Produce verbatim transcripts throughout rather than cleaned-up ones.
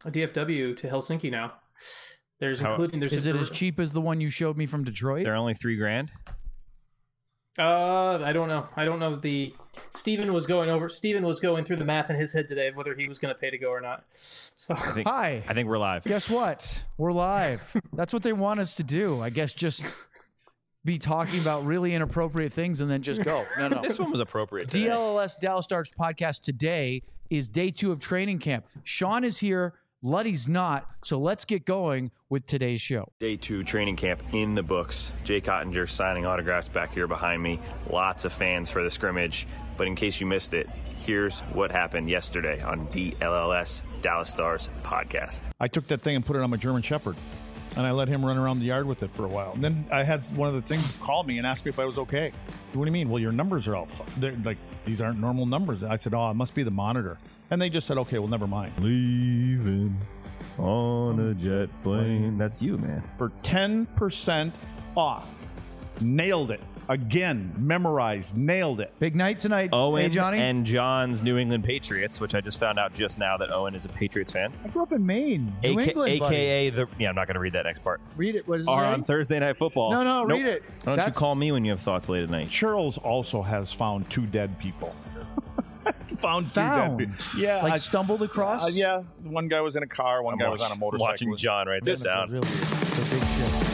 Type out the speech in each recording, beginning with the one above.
D F W to Helsinki now. There's How, including there's Is a, it as cheap as the one you showed me from Detroit? They're only three grand. Uh, I don't know. I don't know the. Steven was going over. Steven was going through the math in his head today of whether he was going to pay to go or not. So I think, Hi. I think we're live. Guess what? We're live. That's what they want us to do. I guess just be talking about really inappropriate things and then just go. No, no. This one was appropriate. Today. D L L S Dallas Stars podcast today is day two of training camp. Sean is here. Luddy's not. So let's get going with today's show. Day two training camp in the books. Jay Cottinger signing autographs back here behind me. Lots of fans for the scrimmage. But in case you missed it, here's what happened yesterday on D L L S Dallas Stars podcast. I took that thing and put it on my German Shepherd, and I let him run around the yard with it for a while. And then I had one of the things call me and ask me if I was okay. What do you mean? Well, your numbers are all fu- they're like these aren't normal numbers. I said, oh, it must be the monitor. And they just said, okay, well, never mind. Leaving on a jet plane. That's you, man. For ten percent off. Nailed it. Again, memorized, nailed it. Big night tonight. Owen hey, Johnny. and John's New England Patriots, which I just found out just now that Owen is a Patriots fan. I grew up in Maine, New A K, England, buddy. A K A the yeah, I'm not going to read that next part. Read it. What is it? Are say? on Thursday Night Football. No, no, Nope. read it. Why don't That's- you call me when you have thoughts late at night? Charles also has found two dead people. found, Found. two dead people. Yeah. Like I- stumbled across? uh, yeah. One guy was in a car. One I'm guy watch- was on a motorcycle. watching John write this down. Really, it's a big shit.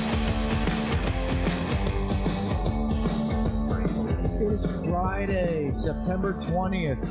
It is Friday, September twentieth.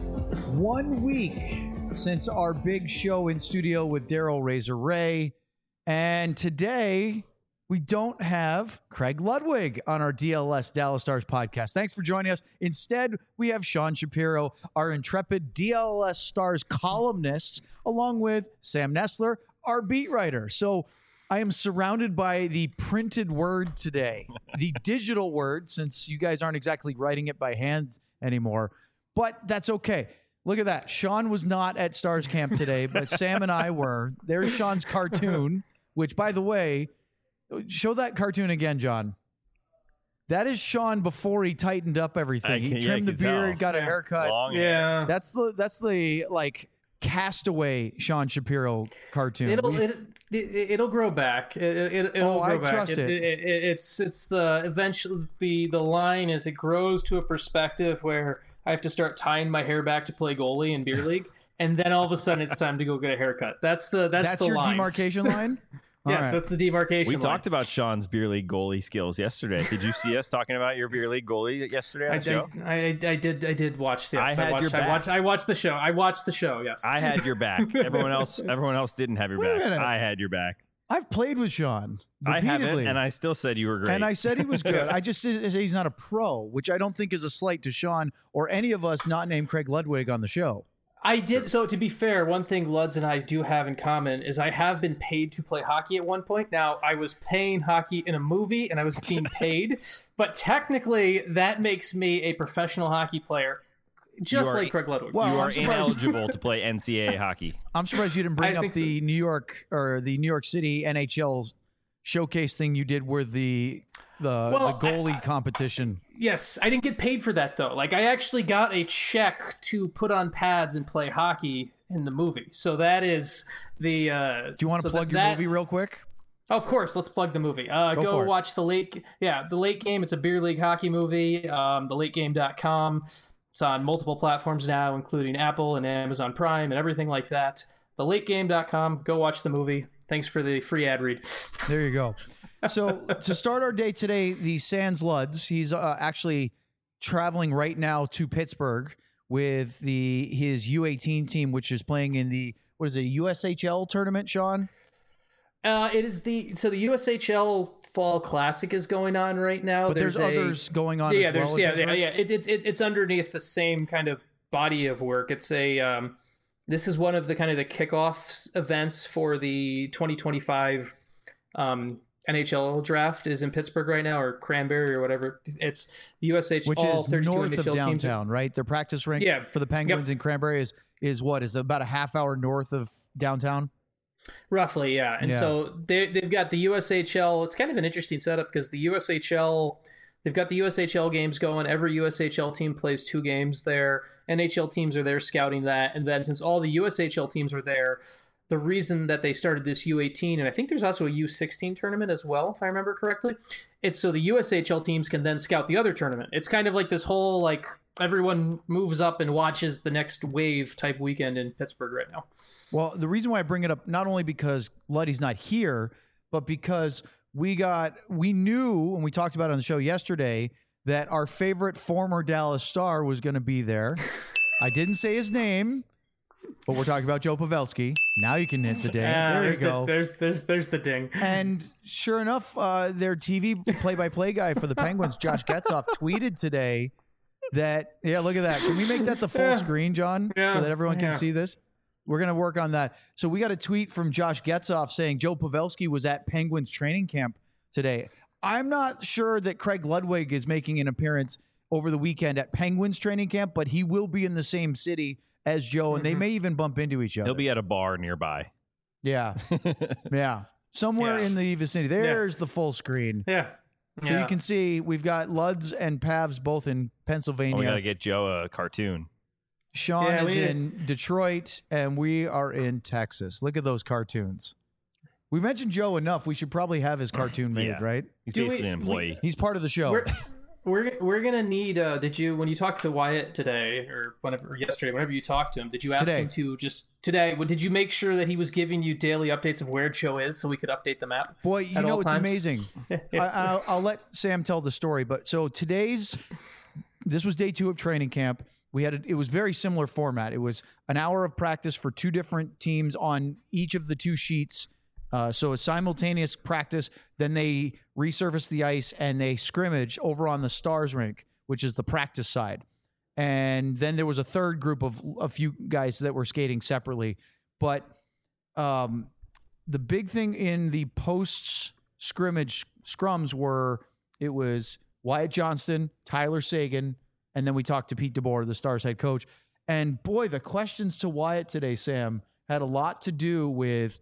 One week since our big show in studio with Daryl Razor Ray. And today, we don't have Craig Ludwig on our D L S Dallas Stars podcast. Thanks for joining us. Instead, we have Sean Shapiro, our intrepid D L S Stars columnist, along with Sam Nestler, our beat writer. So I am surrounded by the printed word today, the digital word, since you guys aren't exactly writing it by hand anymore. But that's okay. Look at that. Sean was not at Stars Camp today, but Sam and I were. There's Sean's cartoon, which, by the way, show that cartoon again, John. That is Sean before he tightened up everything. I He can- yeah, trimmed I the can tell. beard, got a Yeah. haircut. Long hair. yeah, That's the that's the like castaway Sean Shapiro cartoon. it'll We- it, it, it'll grow back. It, it, it'll Oh, I grow back. trust it. It, it, It's it's the eventually the the line is it grows to a perspective where I have to start tying my hair back to play goalie in beer league, and then all of a sudden it's time to go get a haircut. That's the that's, that's the your line. demarcation line? All Yes, right. that's the demarcation. We line. talked about Sean's beer league goalie skills yesterday. Did you see us talking about your beer league goalie yesterday on I, the show? I, I, I did I did watch this. I had watched, your back. I watched I watched the show. I watched the show. Yes. I had your back. Everyone else, everyone else didn't have your Wait a back. minute. I had your back. I've played with Sean I haven't, repeatedly. and I still said you were great. And I said he was good. I just said he's not a pro, which I don't think is a slight to Sean or any of us not named Craig Ludwig on the show. I did. So to be fair, one thing Luds and I do have in common is I have been paid to play hockey at one point. Now I was playing hockey in a movie and I was being paid, but technically that makes me a professional hockey player, just You are- like Craig Ludwig. Well, you I'm are surprised- ineligible to play N C A A hockey. I'm surprised you didn't bring I up think the New York or the New York City N H L showcase thing you did with the the, Well, the goalie I- I- competition. Yes, I didn't get paid for that though. Like I actually got a check to put on pads and play hockey in the movie. So that is the. Uh, Do you want to so plug that- your that- movie real quick? Of course, let's plug the movie. Uh, Go go for it. watch the late, yeah, the late game. It's a beer league hockey movie. Um, the late game dot com. It's on multiple platforms now, including Apple and Amazon Prime and everything like that. the late game dot com. Go watch the movie. Thanks for the free ad read. There you go. So to start our day today, the Sans Luds, he's uh, actually traveling right now to Pittsburgh with the his U eighteen team, which is playing in the what is it, U S H L tournament, Sean? Uh, it is the so the U S H L Fall Classic is going on right now. But there's, a- others going on Yeah, as well. there's in yeah, Pittsburgh? yeah, yeah. It, it's it, it's underneath the same kind of body of work. It's a um, this is one of the kind of the kickoff events for the twenty twenty-five um, N H L draft is in Pittsburgh right now, or Cranberry or whatever. It's the U S H L Which is thirty-two north N H L of teams. downtown, right? Their practice rink Yeah. for the Penguins in Cranberry is is what is about a half hour north of downtown. Roughly, yeah. And Yeah. so they they've got the U S H L. It's kind of an interesting setup because the U S H L, they've got the U S H L games going. Every U S H L team plays two games there. N H L teams are there scouting that, and then since all the U S H L teams are there, the reason that they started this U eighteen, and I think there's also a U sixteen tournament as well, if I remember correctly. It's so the U S H L teams can then scout the other tournament. It's kind of like this whole, like, everyone moves up and watches the next wave type weekend in Pittsburgh right now. Well, the reason why I bring it up, not only because Luddy's not here, but because we got, we knew, and we talked about it on the show yesterday, that our favorite former Dallas Star was going to be there. I didn't say his name, but we're talking about Joe Pavelski. Now you can hit the ding. Ah, there you go. The, there's, there's, there's the ding. And sure enough, uh, their T V play-by-play guy for the Penguins, Josh Getzoff, tweeted today that, yeah, look at that. Can we make that the full Yeah. screen, John, Yeah. so that everyone can Yeah. see this? We're going to work on that. So we got a tweet from Josh Getzoff saying Joe Pavelski was at Penguins training camp today. I'm not sure that Craig Ludwig is making an appearance over the weekend at Penguins training camp, but he will be in the same city as Joe, and Mm-hmm. they may even bump into each other. He'll be at a bar nearby. Yeah. Yeah. Somewhere Yeah. in the vicinity. There's the full screen. Yeah. So yeah. you can see we've got Luds and Pavs both in Pennsylvania. Oh, we got to get Joe a cartoon. Sean Yeah, is we- in Detroit, and we are in Texas. Look at those cartoons. We mentioned Joe enough. We should probably have his cartoon made, Yeah. right? He's Do basically we- an employee. He's part of the show. We're, we're we're gonna need. Uh, did you when you talked to Wyatt today or whenever or yesterday, whenever you talked to him, did you ask Today. him to just today? Did you make sure that he was giving you daily updates of where Joe is so we could update the map? Boy, you at know all it's times? amazing. I, I'll, I'll let Sam tell the story, but so today's this was day two of training camp. We had a, it was very similar format. It was an hour of practice for two different teams on each of the two sheets. Uh, so a simultaneous practice. Then they resurface the ice and they scrimmage over on the Stars rink, which is the practice side. And then there was a third group of a few guys that were skating separately. But um, the big thing in the post scrimmage scrums were it was Wyatt Johnston, Tyler Sagan, and then we talked to Pete DeBoer, the Stars head coach. And boy, the questions to Wyatt today, Sam, had a lot to do with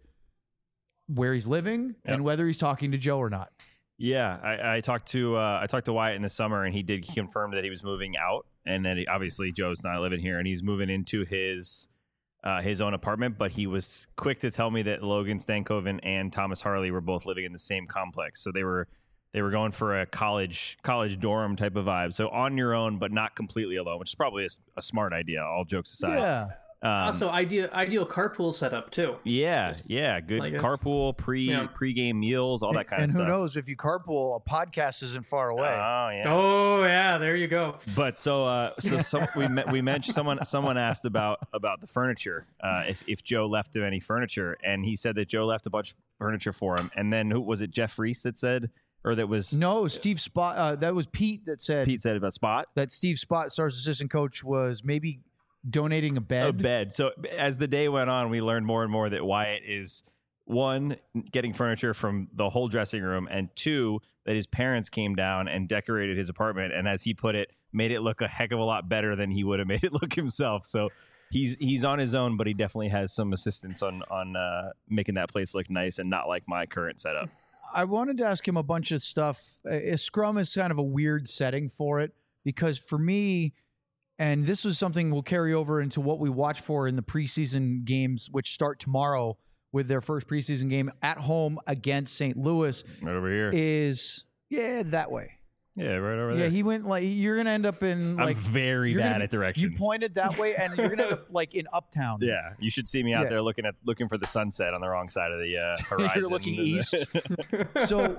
where he's living Yep. and whether he's talking to Joe or not. Yeah, I, I talked to uh, I talked to Wyatt in the summer, and he did confirm that he was moving out, and then he, obviously Joe's not living here, and he's moving into his uh, his own apartment. But he was quick to tell me that Logan Stankoven and Thomas Harley were both living in the same complex, so they were they were going for a college college dorm type of vibe. So on your own, but not completely alone, which is probably a, a smart idea. All jokes aside, Yeah. Um, Also, ideal ideal carpool setup too. yeah, yeah, good like it's- carpool, pre yeah. pre-game meals, all that kind and of who stuff. knows, if you carpool, a podcast isn't far away. Oh yeah. Oh yeah, there you go. But so, uh, so some, we met, we mentioned someone someone asked about about the furniture, uh, if if Joe left him any furniture, and he said that Joe left a bunch of furniture for him. And then who was it? Jeff Reese that said, or that was No, Steve Spot. Uh, that was Pete that said Pete said about Spot. that Steve Spot, Stars assistant coach, was maybe donating a bed. A bed. So as the day went on, we learned more and more that Wyatt is one, getting furniture from the whole dressing room, and two, that his parents came down and decorated his apartment, and as he put it, made it look a heck of a lot better than he would have made it look himself. So he's he's on his own, but he definitely has some assistance on on uh, making that place look nice and not like my current setup. I wanted to ask him a bunch of stuff. Uh, Scrum is kind of a weird setting for it because for me, and this is something we'll carry over into what we watch for in the preseason games, which start tomorrow with their first preseason game at home against Saint Louis, Right over here. is, yeah, that way. Yeah, right over Yeah, there. he went like, you're going to end up in like, I'm very you're bad gonna- at directions. you pointed that way and you're going to end up like in Uptown. Yeah, you should see me out Yeah. there looking at looking for the sunset on the wrong side of the uh, horizon. looking east. So,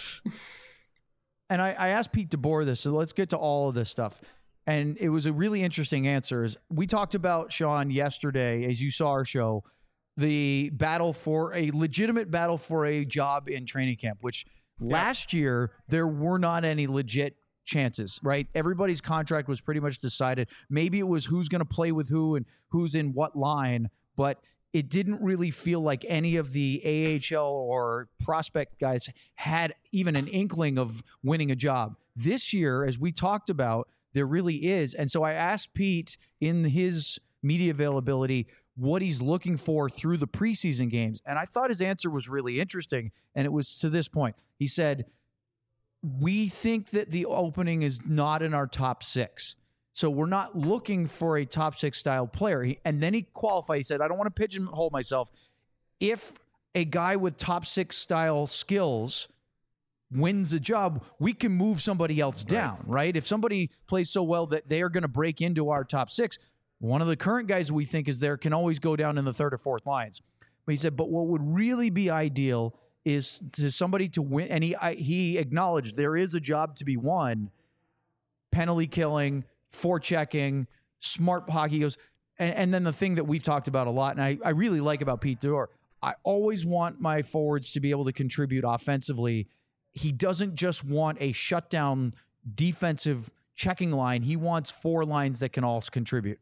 and I, I asked Pete DeBoer this, so let's get to all of this stuff. And it was a really interesting answer. Is we talked about, Sean, yesterday, as you saw our show, the battle for a legitimate battle for a job in training camp, which last year there were not any legit chances, right? Everybody's contract was pretty much decided. Maybe it was who's going to play with who and who's in what line, but it didn't really feel like any of the A H L or prospect guys had even an inkling of winning a job. This year, as we talked about, there really is. And so I asked Pete in his media availability what he's looking for through the preseason games. And I thought his answer was really interesting. And it was to this point. He said, we think that the opening is not in our top six. So we're not looking for a top six style player. He, and then he qualified. He said, I don't want to pigeonhole myself. if a guy with top six style skills wins a job, we can move somebody else down, right? right? If somebody plays so well that they are going to break into our top six, one of the current guys we think is there can always go down in the third or fourth lines. But he said, but what would really be ideal is to somebody to win. And he, I, he acknowledged there is a job to be won. Penalty killing, forechecking, smart hockey. He goes, and, and then the thing that we've talked about a lot, and I, I really like about Pete DeBoer, I always want my forwards to be able to contribute offensively. He doesn't just want a shutdown defensive checking line. He wants four lines that can all contribute.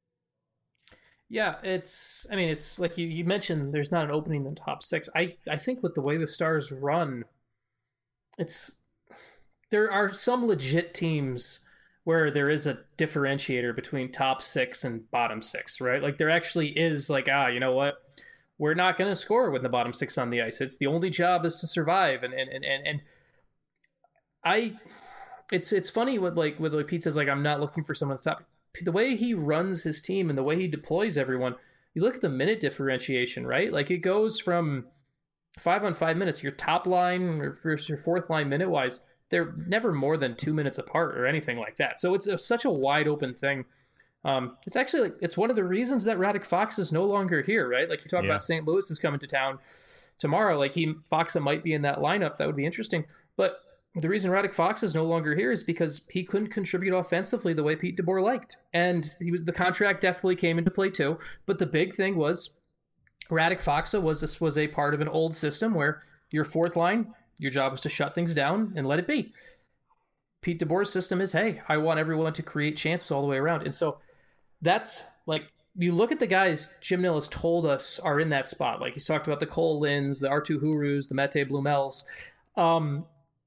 Yeah, it's, I mean, it's like you, you mentioned, there's not an opening in the top six. I, I think with the way the Stars run, it's, there are some legit teams where there is a differentiator between top six and bottom six, right? Like there actually is like, ah, you know what? We're not going to score with the bottom six on the ice. It's the only job is to survive. And, and, and, and, and I, it's, it's funny with like, with like Pete says, like, I'm not looking for someone at the top. The way he runs his team and the way he deploys everyone, you look at the minute differentiation, right? Like it goes from five on five minutes, your top line or first your fourth line minute wise, they're never more than two minutes apart or anything like that. So it's a, such a wide open thing. Um, it's actually like, it's one of the reasons that Radek Fox is no longer here, right? Like you talk yeah. about Saint Louis is coming to town tomorrow. Like he, Foxa might be in that lineup. That would be interesting. But the reason Radek Fox is no longer here is because he couldn't contribute offensively the way Pete DeBoer liked. And he was, the contract definitely came into play too. But the big thing was Radek Foxa was, this was a part of an old system where your fourth line, your job was to shut things down and let it be. Pete DeBoer's system is, hey, I want everyone to create chances all the way around. And so that's like, you look at the guys Jim Nill has told us are in that spot. Like he's talked about the Cole Linds, the Arttu Hurus, the Mette Blumels. Um,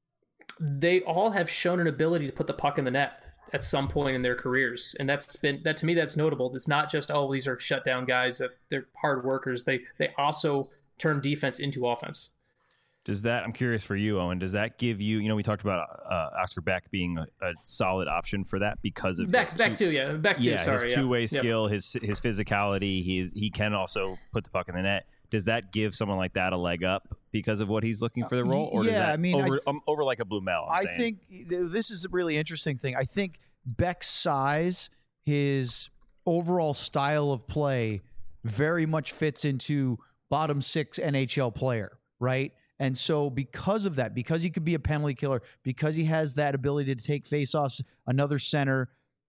they all have shown an ability to put the puck in the net at some point in their careers. And that's been, that to me, that's notable. It's not just, oh, these are shutdown guys, that they're hard workers. They, they also turn defense into offense. Does that, I'm curious for you, Owen, does that give you, you know, we talked about uh, Oscar Beck being a, a solid option for that because of Beck, his Beck two, too, yeah. Beck too, yeah, sorry. his two-way yeah. skill, yep. his his physicality, he, he can also put the puck in the net. Does that give someone like that a leg up because of what he's looking for the role? Or yeah, does that I mean, over, I th- um, over like a Blumel? I'm I saying? think this is a really interesting thing. I think Beck's size, his overall style of play very much fits into bottom six N H L player, right? And so because of that, because he could be a penalty killer, because he has that ability to take faceoffs, another center,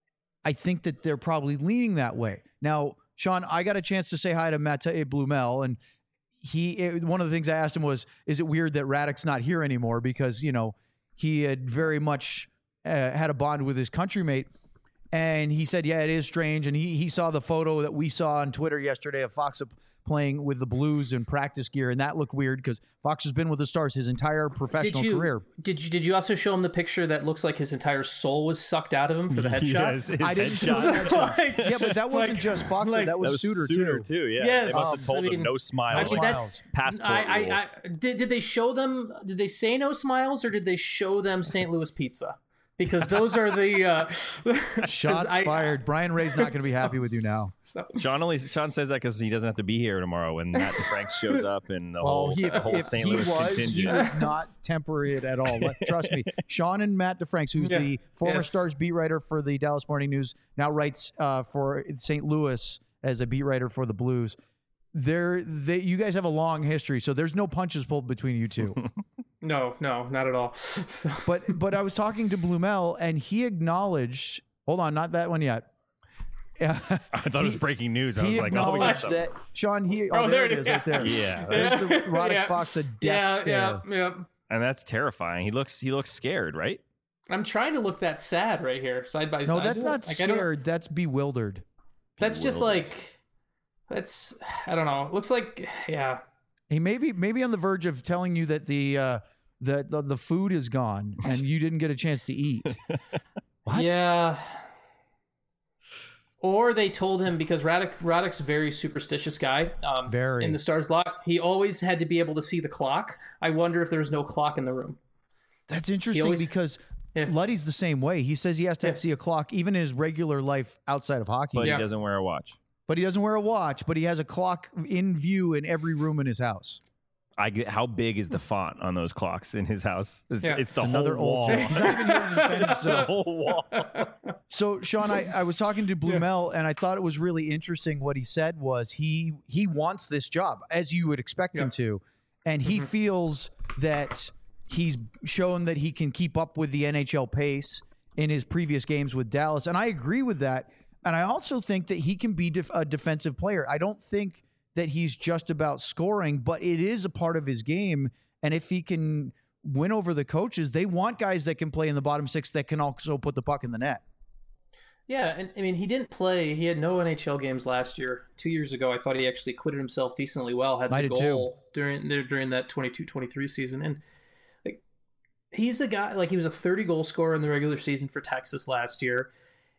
I think that they're probably leaning that way. Now, Sean, I got a chance to say hi to Mette Blumel, and he it, one of the things I asked him was, is it weird that Radek's not here anymore? Because, you know, he had very much uh, had a bond with his countrymate. And he said, yeah, it is strange. And he he saw the photo that we saw on Twitter yesterday of Fox playing with the Blues in practice gear, and that looked weird because Fox has been with the Stars his entire professional did you, career. Did you did you also show him the picture that looks like his entire soul was sucked out of him for the headshot? Yes, his I didn't see headshot. that. Like- Yeah, but that wasn't like- just Fox. like- that was, That was Suter, Suter too. too. Yeah, Yes. they must have Um, told I mean, him no smiles. I mean, that's Smiles. Passport I, I, rule. I, did, did they show them, did they say no smiles or did they show them Saint Louis pizza? Because those are the uh, 'cause Shots I- fired. Brian Ray's not going to be happy with you now. So, Sean only Sean says that because he doesn't have to be here tomorrow when Matt DeFranks shows up and the Well, whole, he, the if, whole if Saint he Louis was, he contingent. would not temper it at all. Let- Trust me. Sean and Matt DeFranks, who's Yeah. the former Yes. Stars beat writer for the Dallas Morning News, now writes uh, for Saint Louis as a beat writer for the Blues. They're, they, you guys have a long history, so there's no punches pulled between you two. no, no, not at all. So, But but I was talking to Blumel, and he acknowledged. Hold on, not that one yet. I thought it was breaking news. I He was like, oh, we got acknowledged something. that Sean. He oh, Oh, there, there it it is, is. right there. Yeah, There's the Roddick Yeah. Fox a death yeah, stare. yeah, yeah. and that's terrifying. He looks he looks scared, right? I'm trying to look that sad right here, side by No, side. that's not Like, I don't- scared. That's bewildered. That's just Bewildered. like, that's, I don't know. It looks like, yeah. He may be maybe on the verge of telling you that the uh, the, the the food is gone and you didn't get a chance to eat. What? Yeah. Or they told him, because Radek, Radek's a very superstitious guy. Um, Very. In the Stars lock, he always had to be able to see the clock. I wonder if there was no clock in the room. That's interesting always- because Yeah. Luddy's the same way. He says he has to Yeah. see a clock even in his regular life outside of hockey. But Yeah. he doesn't wear a watch. but he doesn't wear a watch, but he has a clock in view in every room in his house. I get, how big is the font on those clocks in his house? It's, Yeah. it's the It's whole another wall. old joke. He's not even here to defend It's the himself. whole wall. So, Sean, I, I was talking to Blumel, and I thought it was really interesting. What he said was he he wants this job, as you would expect him Yeah. to, and he Mm-hmm. feels that he's shown that he can keep up with the N H L pace in his previous games with Dallas, and I agree with that. And I also think that he can be def- a defensive player. I don't think that he's just about scoring, but it is a part of his game. And if he can win over the coaches, they want guys that can play in the bottom six that can also put the puck in the net. Yeah, and I mean, he didn't play. He had no N H L games last year. Two years ago, I thought he actually acquitted himself decently well. Had I the did goal during during that twenty-two twenty-three season, and like he's a guy like he was a thirty goal scorer in the regular season for Texas last year.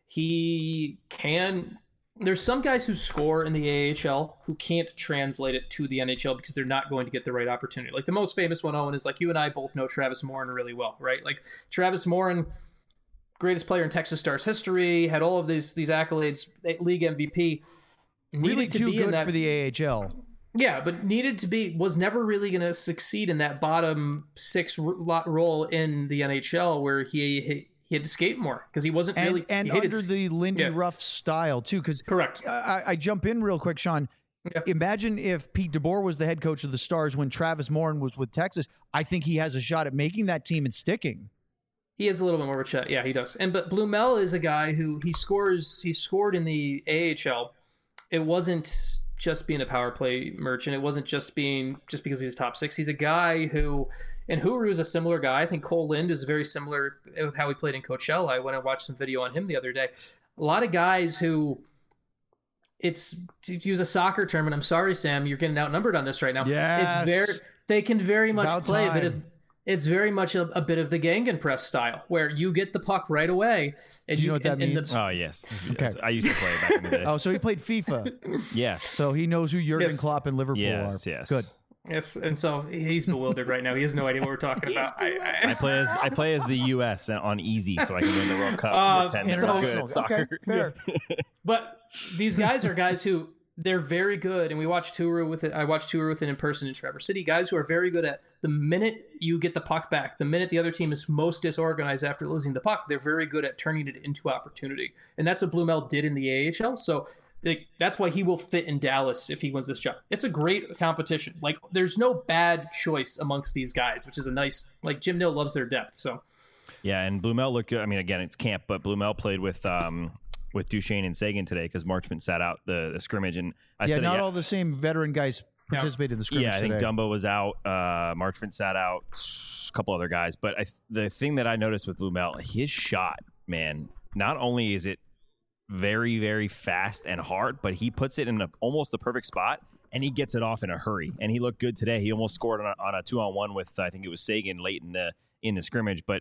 He can. There's some guys who score in the A H L who can't translate it to the N H L because they're not going to get the right opportunity. Like the most famous one, Owen, is like you and I both know Travis Morin really well, right? Like Travis Morin, greatest player in Texas Stars history, had all of these these accolades, league M V P. Really Needed to too be in good that, for the A H L. yeah, but needed to be was never really going to succeed in that bottom six ro- role in the N H L where he he, he had to skate more because he wasn't And, really and he hated- under the Lindy yeah. Ruff style, too, because correct. I, I jump in real quick, Sean. Yeah. Imagine if Pete DeBoer was the head coach of the Stars when Travis Morin was with Texas. I think he has a shot at making that team and sticking. He has a little bit more of a chat. Yeah, he does. And but Blumel is a guy who he scores. He scored in the A H L. It wasn't just being a power play merchant. It wasn't just being just because he's top six. He's a guy who, and Huru is a similar guy. I think Cole Lind is very similar with how he played in Coachella. I went and watched some video on him the other day. A lot of guys who, it's to use a soccer term, and I'm sorry, Sam, you're getting outnumbered on this right now. Yes. It's very they can very much about play a bit time. of. It's very much a, a bit of the Gegenpress style, where you get the puck right away. And Do you know what that and, and means? the, Oh, yes. Okay. I used to play back in the day. Oh, so he played FIFA. Yes. So he knows who Jurgen Yes. Klopp and Liverpool Yes, are. yes. Good. yes, and so he's bewildered right now. He has no idea what we're talking about. I, I I, play as I play as the U S on easy, so I can win the World Cup. Uh, pretend so- that I'm good International. at soccer. Okay, fair. but these guys are guys who they're very good, and we watched Touru with it. I watched Touru with it in person in Traverse City. Guys who are very good at the minute you get the puck back, the minute the other team is most disorganized after losing the puck, they're very good at turning it into opportunity, and that's what Blumel did in the A H L. So. Like, that's why he will fit in Dallas if he wins this job. It's a great competition. Like, there's no bad choice amongst these guys, which is a nice. Like, Jim Nill loves their depth. So Yeah, and Blumel looked good. I mean, again, it's camp, but Blumel played with um with Duchesne and Sagan today because Marchment sat out the, the scrimmage, and I Yeah, said, not yeah, all the same veteran guys participated in the scrimmage yeah, I think today. Dumbo was out, uh, Marchment sat out, a couple other guys, but I, the thing that I noticed with Blumel, his shot, man, not only is it very, very fast and hard, but he puts it in a, almost the perfect spot, and he gets it off in a hurry. And he looked good today. He almost scored on a, on a two-on-one with, I think it was Sagan late in the in the scrimmage, but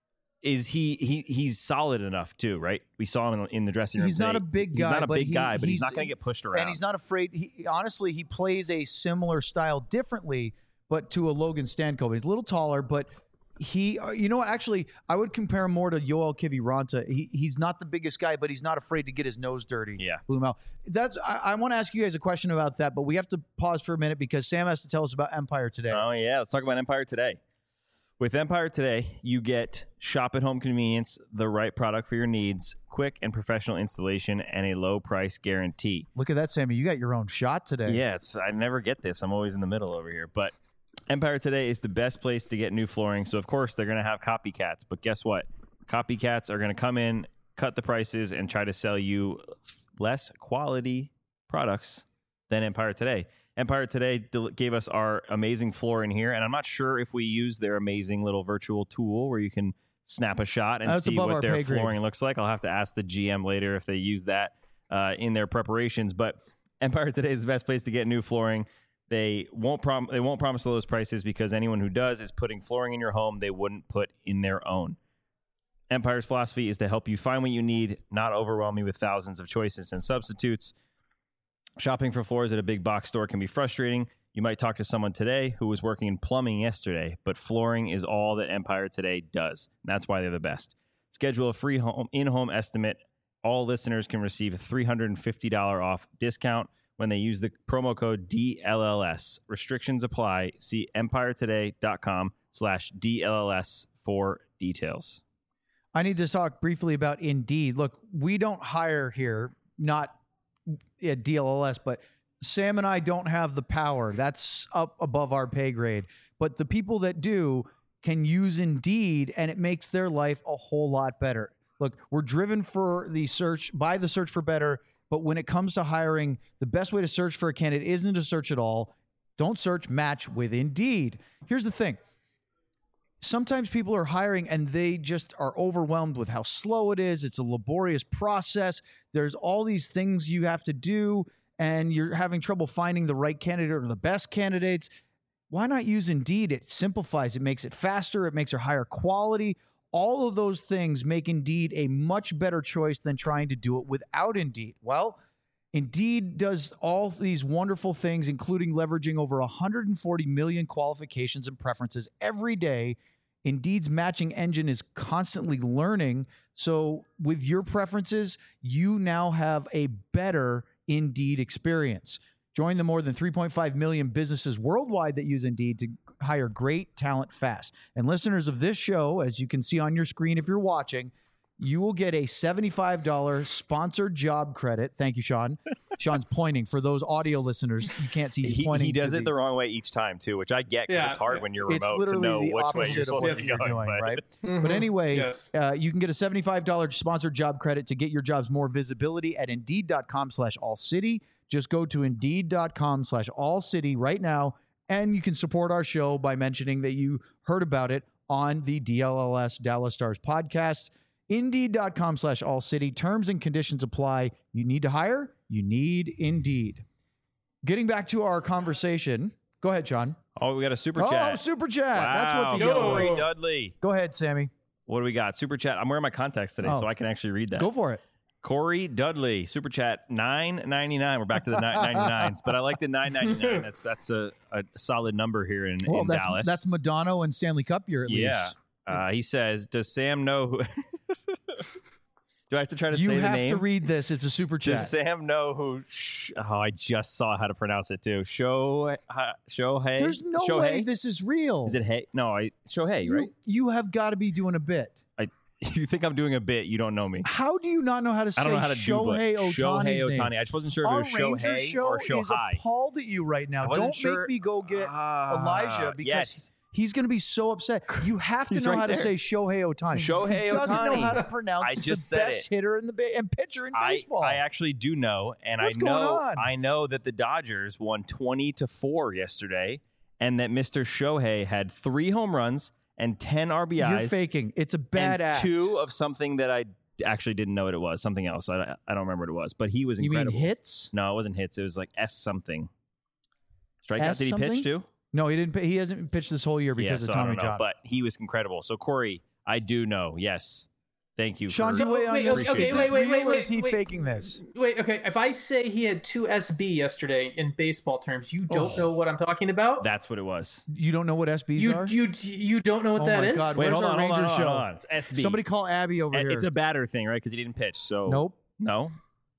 is he he he's solid enough too, right? We saw him in, in the dressing room He's not today. a big He's guy, not a but big he- guy, but he's, he's- not going to get pushed around. And he's not afraid. He honestly, he plays a similar style differently, but to a Logan Stankoven. He's a little taller, but he, uh, you know what? Actually, I would compare him more to Yoel Kiviranta. He he's not the biggest guy, but he's not afraid to get his nose dirty. Yeah. Blumel. That's. I, I want to ask you guys a question about that, but we have to pause for a minute because Sam has to tell us about Empire today. Oh, yeah. Let's talk about Empire Today. With Empire Today, you get shop at home convenience, the right product for your needs, quick and professional installation, and a low price guarantee. Look at that, Sammy. You got your own shot today. Yes, I never get this. I'm always in the middle over here. But Empire Today is the best place to get new flooring. So, of course, they're going to have copycats. But guess what? Copycats are going to come in, cut the prices, and try to sell you less quality products than Empire Today. Empire Today del- gave us our amazing floor in here, and I'm not sure if we use their amazing little virtual tool where you can snap a shot and That's see above our what their pay grade. flooring looks like. I'll have to ask the G M later if they use that uh, in their preparations. But Empire Today is the best place to get new flooring. They won't prom- they won't promise those prices because anyone who does is putting flooring in your home they wouldn't put in their own. Empire's philosophy is to help you find what you need, not overwhelm you with thousands of choices and substitutes. Shopping for floors at a big box store can be frustrating. You might talk to someone today who was working in plumbing yesterday, but flooring is all that Empire Today does. And that's why they're the best. Schedule a free home in-home estimate all listeners can receive a three hundred fifty dollars off discount when they use the promo code D L L S. Restrictions apply. See empiretoday.com slash DLLS for details. I need to talk briefly about Indeed. Look, we don't hire here, not at D L L S, but Sam and I don't have the power. That's up above our pay grade. But the people that do can use Indeed, and it makes their life a whole lot better. Look, we're driven for the search, by the search for better, but when it comes to hiring, the best way to search for a candidate isn't to search at all. Don't search, match with Indeed. Here's the thing. Sometimes people are hiring and they just are overwhelmed with how slow it is. It's a laborious process. There's all these things you have to do, and you're having trouble finding the right candidate or the best candidates. Why not use Indeed? It simplifies. It makes it faster. It makes it higher quality. All of those things make Indeed a much better choice than trying to do it without Indeed. Well, Indeed does all these wonderful things, including leveraging over one hundred forty million qualifications and preferences every day. Indeed's matching engine is constantly learning. So with your preferences, you now have a better Indeed experience. Join the more than three point five million businesses worldwide that use Indeed to hire great talent fast. And listeners of this show, as you can see on your screen if you're watching, you will get a seventy-five dollars sponsored job credit. Thank you, Sean. Sean's pointing. For those audio listeners, you can't see. He's he, pointing. He does to it the, the wrong way each time, too, which I get because Yeah, it's hard yeah. when you're It's remote to literally know the which way you're opposite of supposed what to be you're going. doing, but- right? Mhm. But anyway, Yes. uh, you can get a seventy-five dollars sponsored job credit to get your jobs more visibility at Indeed.com slash All City. Just go to Indeed.com slash All City right now, and you can support our show by mentioning that you heard about it on the D L L S Dallas Stars podcast. Indeed.com slash All City. Terms and conditions apply. You need to hire? You need Indeed. Getting back to our conversation. Go ahead, Sean. Oh, we got a super Oh, chat. super chat. That's what the Wow. yellow Corey was. Yo. Dudley. Go ahead, Sammy. What do we got? Super chat. I'm wearing my contacts today, Oh. so I can actually read that. Go for it. Corey Dudley, super chat nine ninety-nine. We're back to the nine ninety-nines, but I like the nine ninety-nine. That's that's a, a solid number here in, Well, in that's, Dallas. that's Madonna and Stanley Cup year at yeah. least. Uh, he says, "Does Sam know who?" Do I have to try to You say the have name? to read this. It's a super chat. Does Sam know who? Sh- oh, I just saw how to pronounce it too. Show uh, Shohei. There's no Shohei? way this is real. Is it Hey? No, I Shohei, you, right? you have got to be doing a bit. I. You think I'm doing a bit? You don't know me. How do you not know how to say I don't know how to Shohei do but Ohtani's Shohei name? Ohtani. I just wasn't sure if Our it was Ranger Shohei show or is Shohei. appalled at you right now. I wasn't Don't sure- make me go get Ah, Elijah because yes. he's going to be so upset. You have to He's know right how to there. say Shohei Ohtani. Shohei he doesn't know Ohtani. how to pronounce I the just said best it. hitter in the ba- and pitcher in I, baseball. I actually do know, and What's I going know on? I know that the Dodgers won twenty to four yesterday, and that Mister Shohei had three home runs and ten R B Is. You're faking. It's a bad and act. two of something that I actually didn't know what it was. Something else. I, I don't remember what it was, but he was You mean incredible. hits? No, it wasn't hits. It was like S something. Strikeout. S Did he something? pitch too? No, he didn't. He hasn't pitched this whole year Yeah, because so of I Tommy don't know, John. but he was incredible. So Corey, I do know. Yes, thank you. Sean, for, you So, weigh on wait, this. okay, Is this wait, wait, real wait, or wait, is he wait. faking this? Wait, okay. If I say he had two S B yesterday in baseball terms, you don't know what I'm talking about. That's what it was. You don't know what S Bs you are? you you don't know what Oh that my is? God. Wait, Where's hold our on, hold on, Rangers hold show? on. It's S B. Somebody call Abby over Uh, here. It's a batter thing, right? Because he didn't pitch. So Nope. no.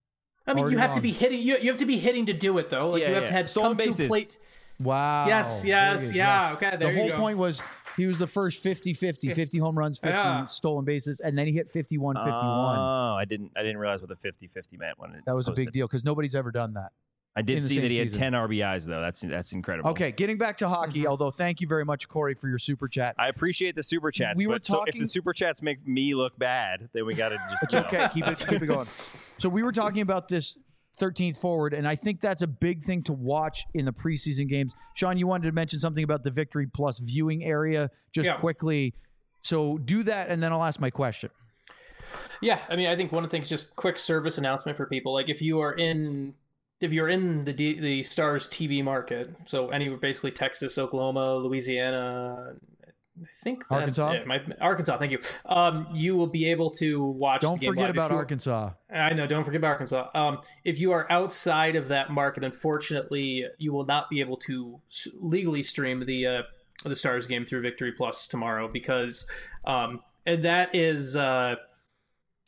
I mean, Already you have wrong. to be hitting. You, you have to be hitting to do it though. Like Yeah, you have yeah. to have Stolen come to bases. plate. Wow. Yes, Very yes, good, yeah. yes. Okay, The there you whole go. point was he was the first fifty fifty, fifty home runs, fifty Yeah. stolen bases, and then he hit fifty-one fifty-one. Oh, I didn't. I didn't realize what the fifty-fifty meant when it that was a big posted. deal because nobody's ever done that. I did in the see same that he had season. ten R B Is though. That's that's incredible. Okay, getting back to hockey, Mhm. although thank you very much, Corey, for your super chat. I appreciate the super chats. We were but so if talking- the super chats make me look bad, then we got to just. It's you know. okay. Keep it keep it going. So we were talking about this thirteenth forward, and I think that's a big thing to watch in the preseason games. Sean, you wanted to mention something about the Victory Plus viewing area just Yeah. quickly. So do that, and then I'll ask my question. Yeah, I mean, I think one of the things, just quick service announcement for people. Like, if you are in, if you're in the D, the Stars T V market, so anywhere, basically Texas, Oklahoma, Louisiana, I think that's Arkansas? it. My, Arkansas, thank you. Um, you will be able to watch. Don't the game forget live. If about you- Arkansas. I know. Don't forget about Arkansas. Um, if you are outside of that market, unfortunately, you will not be able to s- legally stream the uh, the Stars game through Victory Plus tomorrow because, um, and that is uh,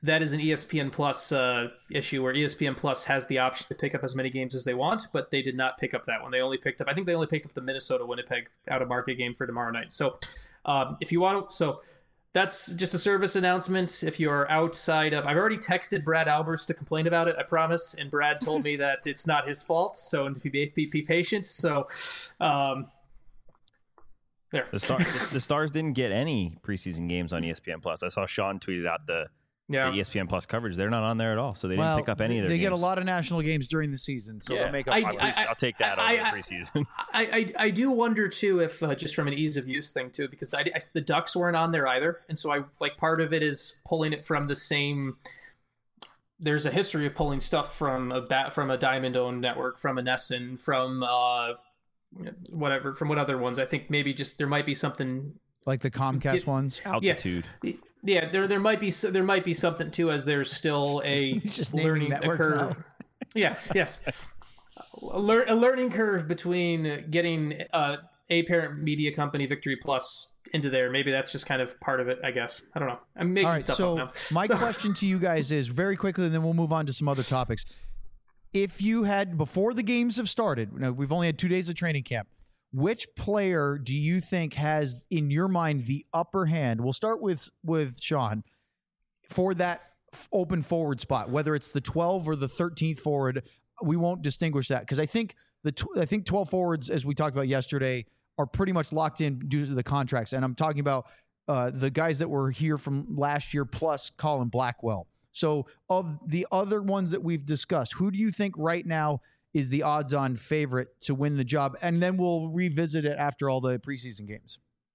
that is an E S P N Plus uh, issue where E S P N Plus has the option to pick up as many games as they want, but they did not pick up that one. They only picked up, I think they only picked up the Minnesota Winnipeg out of market game for tomorrow night. So um, if you want to, so that's just a service announcement. If you're outside of, I've already texted Brad Albers to complain about it, I promise. And Brad told me that it's not his fault. So and to be, be, be patient. So um, there. The, Star, the Stars didn't get any preseason games on E S P N Plus. I saw Sean tweeted out the, yeah. the E S P N Plus coverage. They're not on there at all. So they didn't well, pick up any of their They games. get a lot of national games during the season. So Yeah. they'll make up. I- for it. At least I- I'll take that I- over I- preseason. I, I, I do wonder too if uh, just from an ease of use thing too, because the, I, the Ducks weren't on there either, and so I like part of it is pulling it from the same. There's a history of pulling stuff from a bat from a Diamond owned network, from a Nesson, from uh, whatever, from what other ones. I think maybe just there might be something. Like the Comcast Yeah. ones. Altitude. Yeah, there there might be there might be something too, as there's still a He's just naming learning a networks curve. now. Yeah, yes, a, lear, a learning curve between getting uh, a parent media company, Victory Plus, into there. Maybe that's just kind of part of it. I guess I don't know. I'm making All right, stuff so up now. my So- question to you guys is very quickly, and then we'll move on to some other topics. If you had, before the games have started, now we've only had two days of training camp, which player do you think has, in your mind, the upper hand? We'll start with with Sean for that f- open forward spot, whether it's the twelve or the thirteenth forward. We won't distinguish that because I think the tw- I think twelve forwards, as we talked about yesterday, are pretty much locked in due to the contracts. And I'm talking about uh, the guys that were here from last year plus Colin Blackwell. So of the other ones that we've discussed, who do you think right now is the odds-on favorite to win the job? And then we'll revisit it after all the preseason games.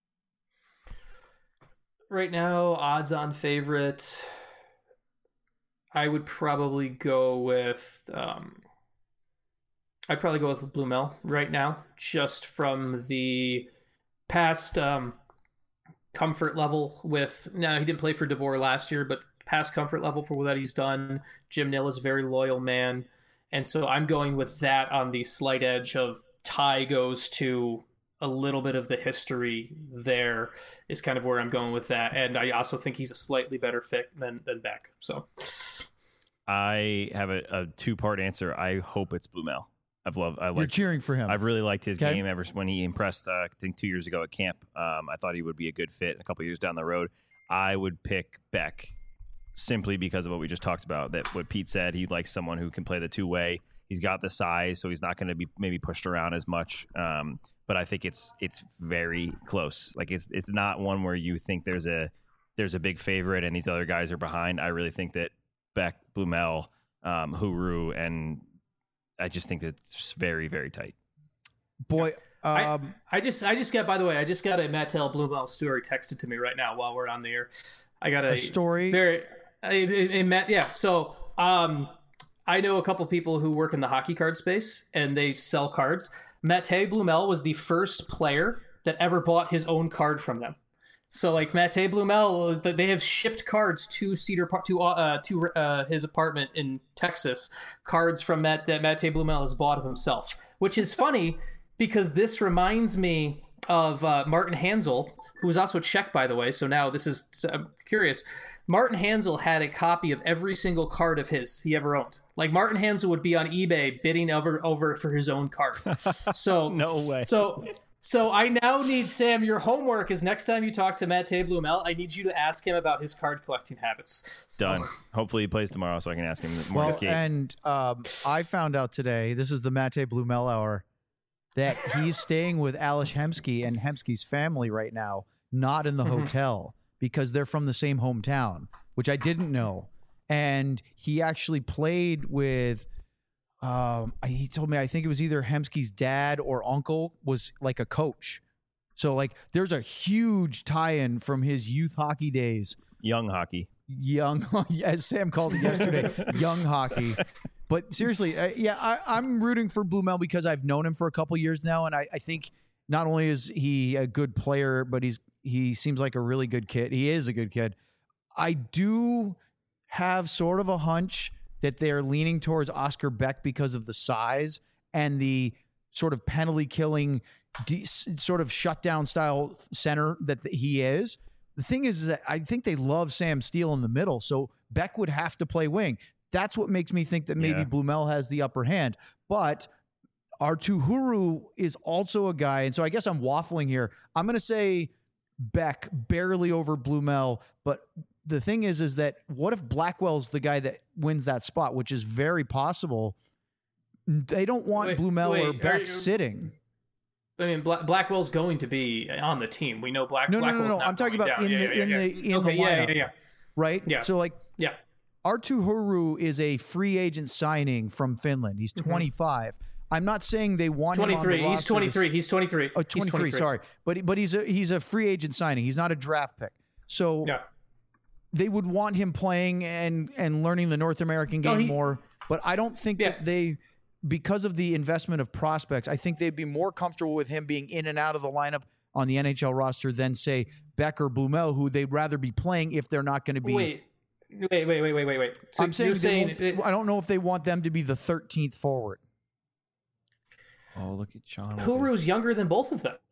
Right now, odds on favorite, I would probably go with um, I'd probably go with Blumel right now, just from the past um, comfort level with. Now, he didn't play for DeBoer last year, but past comfort level for what he's done. Jim Nill is a very loyal man. And so I'm going with that on the slight edge of Ty goes to a little bit of the history there is kind of where I'm going with that. And I also think he's a slightly better fit than, than Beck. So I have a, a two-part answer. I hope it's Blumel. I've loved. I You're like. cheering for him. I've really liked his Okay. game ever since when he impressed. Uh, I think two years ago at camp. Um, I thought he would be a good fit. A couple years down the road, I would pick Beck simply because of what we just talked about. That what Pete said. He likes someone who can play the two-way. He's got the size, so he's not going to be maybe pushed around as much. Um, but I think it's it's very close. Like it's it's not one where you think there's a there's a big favorite and these other guys are behind. I really think that Beck, Blumel, um, Huru, and I just think that it's very very tight. Boy, I, um, I just I just got, by the way, I just got a Mattel Blumel story texted to me right now while we're on the air. I got a, a story. very a, a, a, Matt, yeah. So um, I know a couple people who work in the hockey card space and they sell cards. Mate Blumel was the first player that ever bought his own card from them. So like Mate Blumel, they have shipped cards to Cedar Park, to uh, to uh, his apartment in Texas. Cards from Matt that Mate Blumel has bought of himself, which is funny because this reminds me of uh, Martin Hansel, who was also Czech, by the way. So now this is, so I'm curious. Martin Hansel had a copy of every single card of his he ever owned. Like Martin Hansel would be on eBay bidding over over for his own card. So No way. So so I now need, Sam, your homework is next time you talk to Mate Blumel, I need you to ask him about his card collecting habits. So, Done. Hopefully he plays tomorrow so I can ask him more well, this game. and um, I found out today, this is the Mate Blumel hour, that he's staying with Alish Hemsky and Hemsky's family right now, not in the Mhm. hotel, because they're from the same hometown, which I didn't know. And he actually played with, um, he told me, I think it was either Hemsky's dad or uncle was like a coach. So like there's a huge tie-in from his youth hockey days. Young hockey. Young, as Sam called it yesterday, young hockey. But seriously, uh, yeah, I, I'm rooting for Blumel because I've known him for a couple years now, and I, I think not only is he a good player, but he's he seems like a really good kid. He is a good kid. I do have sort of a hunch that they're leaning towards Oscar Beck because of the size and the sort of penalty killing, de- sort of shutdown style center that he is. the thing is that I think they love Sam Steele in the middle, so Beck would have to play wing. That's what makes me think that maybe Yeah. Blumel has the upper hand. But Artuhuru is also a guy, and so I guess I'm waffling here. I'm going to say Beck barely over Blumel, but the thing is, is that what if Blackwell's the guy that wins that spot, which is very possible. They don't want Wait, Blumel wait, or are Beck you- sitting. I mean, Bla- Blackwell's going to be on the team. We know Black. No, no, no, Blackwell's no. not I'm talking going about down. in Yeah, the yeah, in yeah. the in okay, the yeah, lineup, yeah, yeah, right? Yeah. So like yeah. Artuhuru is a free agent signing from Finland. He's twenty-five. I'm not saying they want him on the twenty-three. He's roster to twenty-three. He's twenty-three. Oh, He's twenty-three, sorry. But but he's a he's a free agent signing. He's not a draft pick. So Yeah. they would want him playing and and learning the North American game No, he- more. But I don't think Yeah. that they, because of the investment of prospects, I think they'd be more comfortable with him being in and out of the lineup on the N H L roster than say Beck or Blumel, who they'd rather be playing if they're not going to be. Wait. Wait, wait, wait, wait, wait, wait. So I'm saying, you're they saying won't- I don't know if they want them to be the thirteenth forward. Oh, look at Sean. with his- Huru's younger than both of them.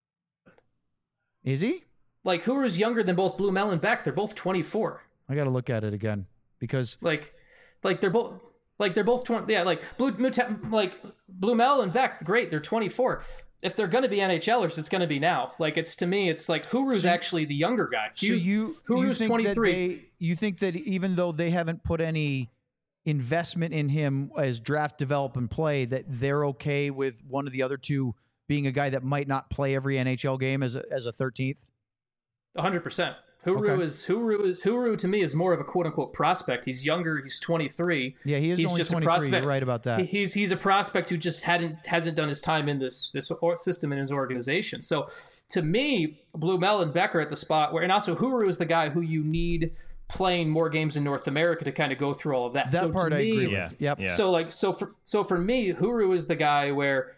Is he? Like Huru's younger than both Blumel and Beck. They're both twenty-four. I got to look at it again because Like, like they're both like they're both twenty. Yeah, like Blue, Mute- like Blumel and Beck. Great, they're twenty-four. If they're going to be NHLers, it's going to be now. Like it's to me, it's like Huru's So- actually the younger guy. so you you Huru's think twenty-three. that they, you think that even though they haven't put any investment in him as draft, develop, and play, that they're okay with one of the other two being a guy that might not play every N H L game as a, as a thirteenth? A hundred percent. Huru Okay. is Huru is Huru to me is more of a quote unquote prospect. He's younger. He's twenty-three. Yeah, he is He's only just a twenty-three. prospect. You're right about that. He- He's he's a prospect who just hadn't hasn't done his time in this this or- system in his organization. So to me, Blumel and Becker at the spot where, and also Huru is the guy who you need playing more games in North America to kind of go through all of that. that so part to I me, agree Yeah. with. Yep. Yeah. So like so for so for me, Huru is the guy where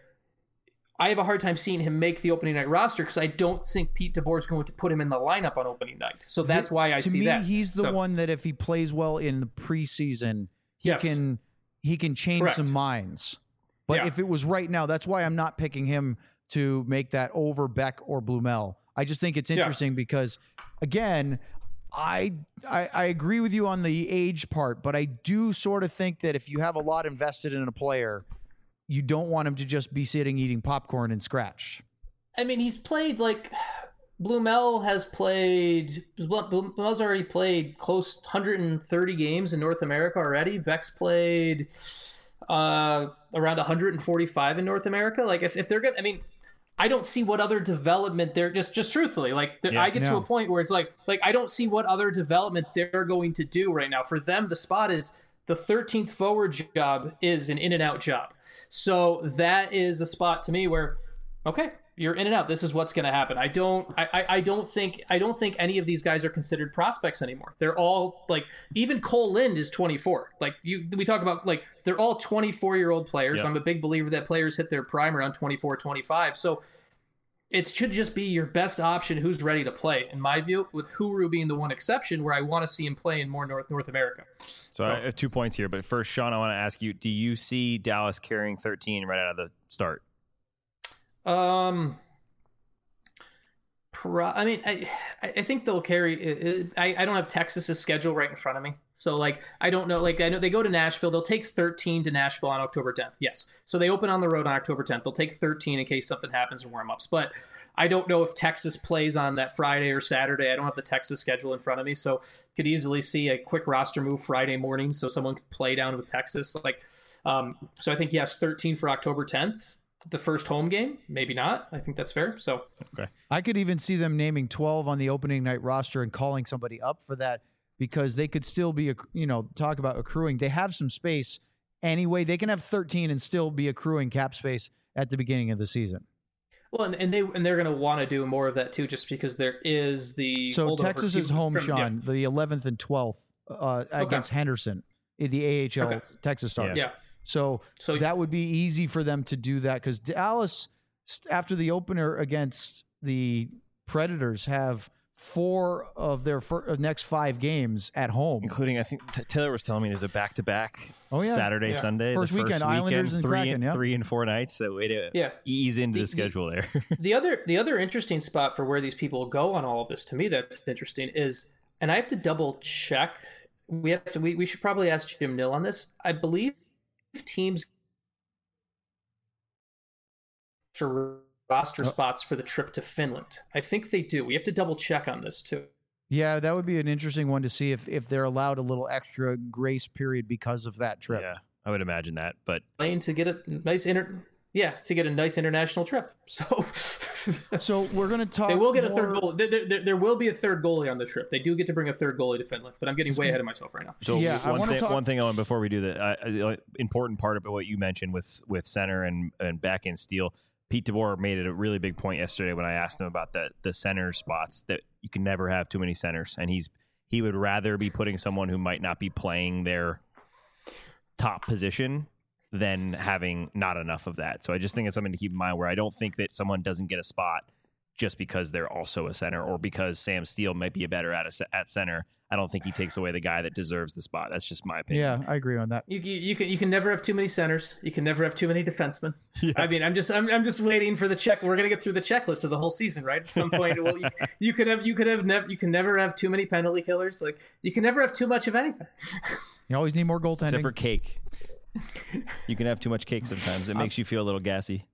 I have a hard time seeing him make the opening night roster because I don't think Pete DeBoer is going to put him in the lineup on opening night. So that's why I to see me, that. he's the So- one that if he plays well in the preseason, he Yes. can he can change Correct. some minds. But Yeah. if it was right now, that's why I'm not picking him to make that over Beck or Blumel. I just think it's Yeah. interesting because, again, I, I I agree with you on the age part, but I do sort of think that if you have a lot invested in a player, you don't want him to just be sitting eating popcorn and scratch. I mean, he's played like Blumel has played. Blumel's already played close one hundred thirty games in North America already. Beck's played uh, around one hundred forty-five in North America. Like, if, if they're gonna, I mean, I don't see what other development they're just just truthfully like. Yeah, I get to no. a point where it's like like I don't see what other development they're going to do right now. For them, the spot is the thirteenth forward job is an in and out job. So that is a spot to me where, okay, you're in and out. This is what's going to happen. I don't, I, I, I don't think, I don't think any of these guys are considered prospects anymore. They're all like, even Cole Lind is twenty-four. Like you, we talk about like, they're all twenty-four year old players. Yeah. I'm a big believer that players hit their prime around twenty-four, twenty-five. So it should just be your best option who's ready to play, in my view, with Huru being the one exception where I want to see him play in more North North America. So I have two points here, but first, Sean, I want to ask you: do you see Dallas carrying thirteen right out of the start? Um, pro- I mean, I I think they'll carry. I I don't have Texas's schedule right in front of me, so like I don't know. Like I know they go to Nashville. They'll take thirteen to Nashville on October tenth. Yes, so they open on the road on October tenth. They'll take thirteen in case something happens in warm-ups. But I don't know if Texas plays on that Friday or Saturday. I don't have the Texas schedule in front of me, so could easily see a quick roster move Friday morning, so someone could play down with Texas. Like, um, so I think yes, thirteen for October tenth. The first home game, maybe not. I think that's fair. So I could even see them naming twelve on the opening night roster and calling somebody up for that because they could still be, acc- you know, talk about accruing. They have some space anyway. They can have thirteen and still be accruing cap space at the beginning of the season. well, and, and they and they're going to want to do more of that too, just because there is the So holdover Texas is home, from- Sean, the eleventh and twelfth uh, against Henderson in the A H L Okay. Texas Stars. Yeah. yeah. So, So that would be easy for them to do that because Dallas, st- after the opener against the Predators, have four of their fir- next five games at home, including I think T- Taylor was telling me there's a back-to-back oh, yeah. Saturday, yeah. Sunday, first, the weekend, first Islanders weekend, and three, Kraken, yeah. three and four nights. So way to yeah. ease into the, the schedule the, there. the other the other interesting spot for where these people go on all of this, to me, that's interesting is, and I have to double check. We have to. We, we should probably ask Jim Nill on this. I believe teams for roster oh. spots for the trip to Finland. I think they do. We have to double check on this too. Yeah, that would be an interesting one to see if, if they're allowed a little extra grace period because of that trip. Yeah, I would imagine that. But playing to get a nice inter, yeah, to get a nice international trip. So, so we're gonna talk. They will get more... a third goal. There, there, there will be a third goalie on the trip. They do get to bring a third goalie to Finland, but I'm getting way ahead of myself right now. So yeah, one, I thing, talk... one thing, Owen, before we do that, uh, uh, important part about what you mentioned with with center and and back end steel. Pete DeBoer made it a really big point yesterday when I asked him about the the center spots, that you can never have too many centers, and he's he would rather be putting someone who might not be playing their top position than having not enough of that. So I just think it's something to keep in mind, where I don't think that someone doesn't get a spot just because they're also a center, or because Sam Steele might be a better at a, at center. I don't think he takes away the guy that deserves the spot. That's just my opinion. Yeah, I agree on that. You, you, you can you can never have too many centers. You can never have too many defensemen. Yeah. I mean, I'm just I'm, I'm just waiting for the check. We're gonna get through the checklist of the whole season, right? At some point, well, you, you could have you could have never you can never have too many penalty killers. Like, you can never have too much of anything. You always need more goaltending. Except for cake. You can have too much cake sometimes. It makes you feel a little gassy.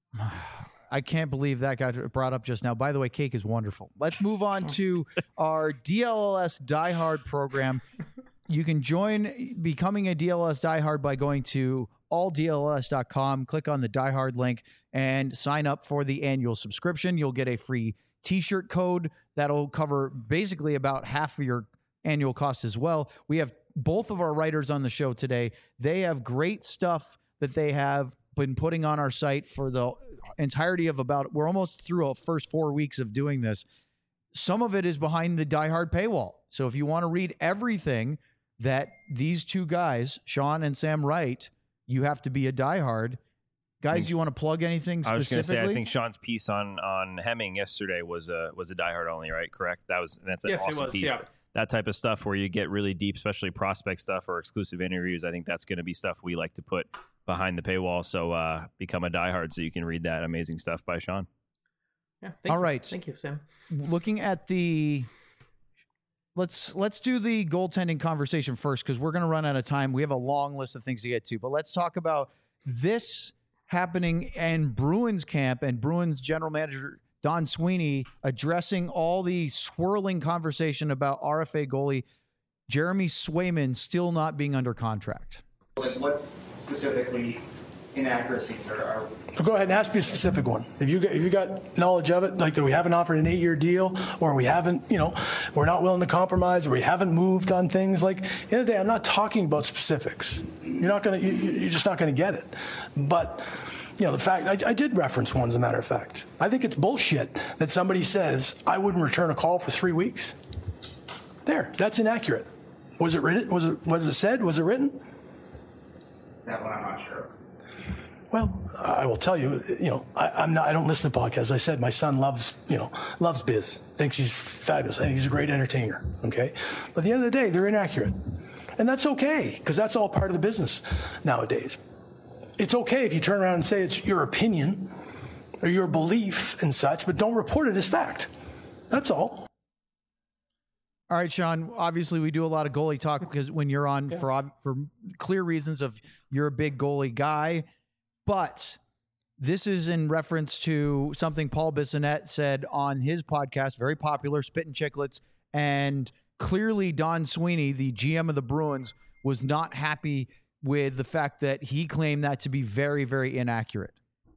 I can't believe that got brought up just now. By the way, cake is wonderful. Let's move on to our D L L S Diehard program. You can join becoming a D L L S Diehard by going to all D L L S dot com, click on the Diehard link, and sign up for the annual subscription. You'll get a free t-shirt code that'll cover basically about half of your annual cost as well. We have both of our writers on the show today. They have great stuff that they have been putting on our site for the entirety of about, we're almost through our first four weeks of doing this. Some of it is behind the Diehard paywall. So if you want to read everything that these two guys, Sean and Sam, write, you have to be a Diehard. Guys, think, you want to plug anything specifically? I was going to say, I think Sean's piece on on Hemming yesterday was a was a Diehard only, right? Correct. That was that's an yes, awesome it was, piece. Yeah. That type of stuff where you get really deep, especially prospect stuff or exclusive interviews. I think that's going to be stuff we like to put behind the paywall. So uh, become a Diehard so you can read that amazing stuff by Sean. Yeah. Thank All you. right. Thank you, Sam. Looking at the, let's let's do the goaltending conversation first, because we're going to run out of time. We have a long list of things to get to, but let's talk about this happening in Bruins camp and Bruins general manager Don Sweeney addressing all the swirling conversation about R F A goalie Jeremy Swayman still not being under contract. Like, what specifically inaccuracies are, are Go ahead and ask me a specific one. If you got, if you got knowledge of it, like that we haven't offered an eight-year deal, or we haven't, you know, we're not willing to compromise, or we haven't moved on things. Like, at the end of the day, I'm not talking about specifics. You're not gonna, you, you're just not gonna get it. But, you know, the fact, I, I did reference one, as a matter of fact. I think it's bullshit that somebody says, I wouldn't return a call for three weeks. There, that's inaccurate. Was it written? Was it, was it said? Was it written? That one I'm not sure. Well, I will tell you, you know, I, I'm not, I don't listen to podcasts. As I said, my son loves, you know, loves biz, thinks he's fabulous. I think he's a great entertainer. Okay. But at the end of the day, they're inaccurate. And that's okay, because that's all part of the business nowadays. It's okay if you turn around and say it's your opinion or your belief and such, but don't report it as fact. That's all. All right, Sean, obviously we do a lot of goalie talk because when you're on yeah. for, for clear reasons of you're a big goalie guy, but this is in reference to something Paul Bissonnette said on his podcast, very popular, Spittin' Chicklets, and clearly Don Sweeney, the G M of the Bruins, was not happy with the fact that he claimed that to be very, very inaccurate.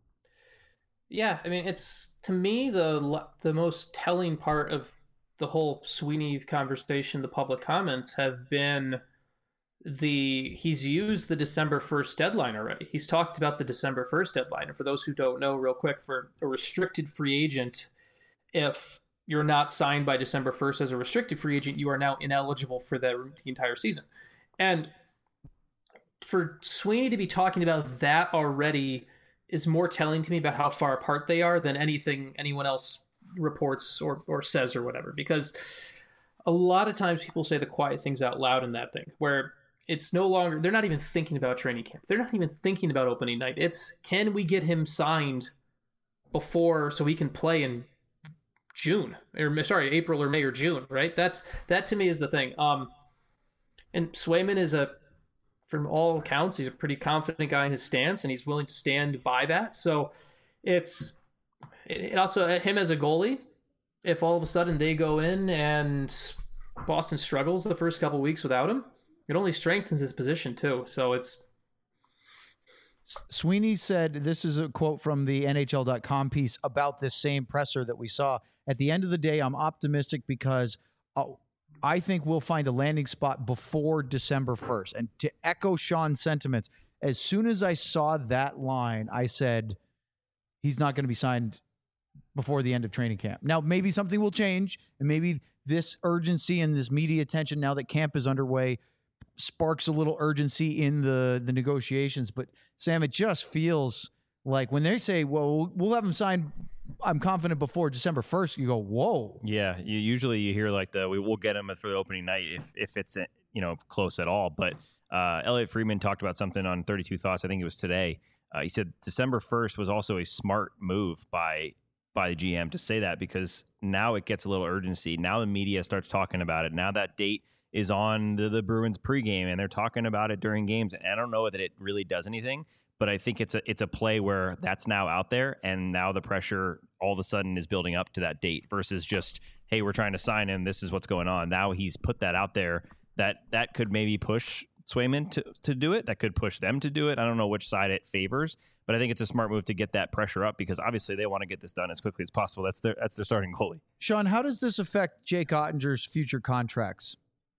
Yeah, I mean, it's, to me, the the most telling part of the whole Sweeney conversation, the public comments, have been the he's used the December first deadline already. He's talked about the December first deadline. And for those who don't know, real quick, for a restricted free agent, if you're not signed by December first as a restricted free agent, you are now ineligible for the, the entire season. And for Sweeney to be talking about that already is more telling to me about how far apart they are than anything anyone else reports or or says or whatever, because a lot of times people say the quiet things out loud in that thing where it's no longer, they're not even thinking about training camp. They're not even thinking about opening night. It's, can we get him signed before so he can play in June or sorry, April or May or June, right? That's, that to me is the thing. Um, and Swayman is a, from all accounts, he's a pretty confident guy in his stance and he's willing to stand by that. So it's, it also, him as a goalie, if all of a sudden they go in and Boston struggles the first couple weeks without him, it only strengthens his position too. So it's. Sweeney said, this is a quote from the N H L dot com piece about this same presser that we saw. At the end of the day, I'm optimistic because uh, I think we'll find a landing spot before December first. And to echo Sean's sentiments, as soon as I saw that line, I said, he's not going to be signed before the end of training camp. Now, maybe something will change, and maybe this urgency and this media attention now that camp is underway sparks a little urgency in the, the negotiations. But, Sam, it just feels like when they say, well, we'll have him signed, I'm confident, before December first, you go, whoa. Yeah, you usually you hear like the, we will get him for the opening night if, if it's, you know, close at all. But uh, Elliot Friedman talked about something on thirty-two Thoughts, I think it was today. Uh, he said December first was also a smart move by by the G M to say that, because now it gets a little urgency. Now the media starts talking about it. Now that date is on the, the Bruins pregame, and they're talking about it during games. And I don't know that it really does anything, but I think it's a it's a play where that's now out there, and now the pressure all of a sudden is building up to that date versus just, hey, we're trying to sign him, this is what's going on. Now he's put that out there. That that could maybe push Swayman to, to do it. That could push them to do it. I don't know which side it favors, but I think it's a smart move to get that pressure up, because obviously they want to get this done as quickly as possible. That's their that's their starting goalie. Sean, how does this affect Jake Ottinger's future contracts?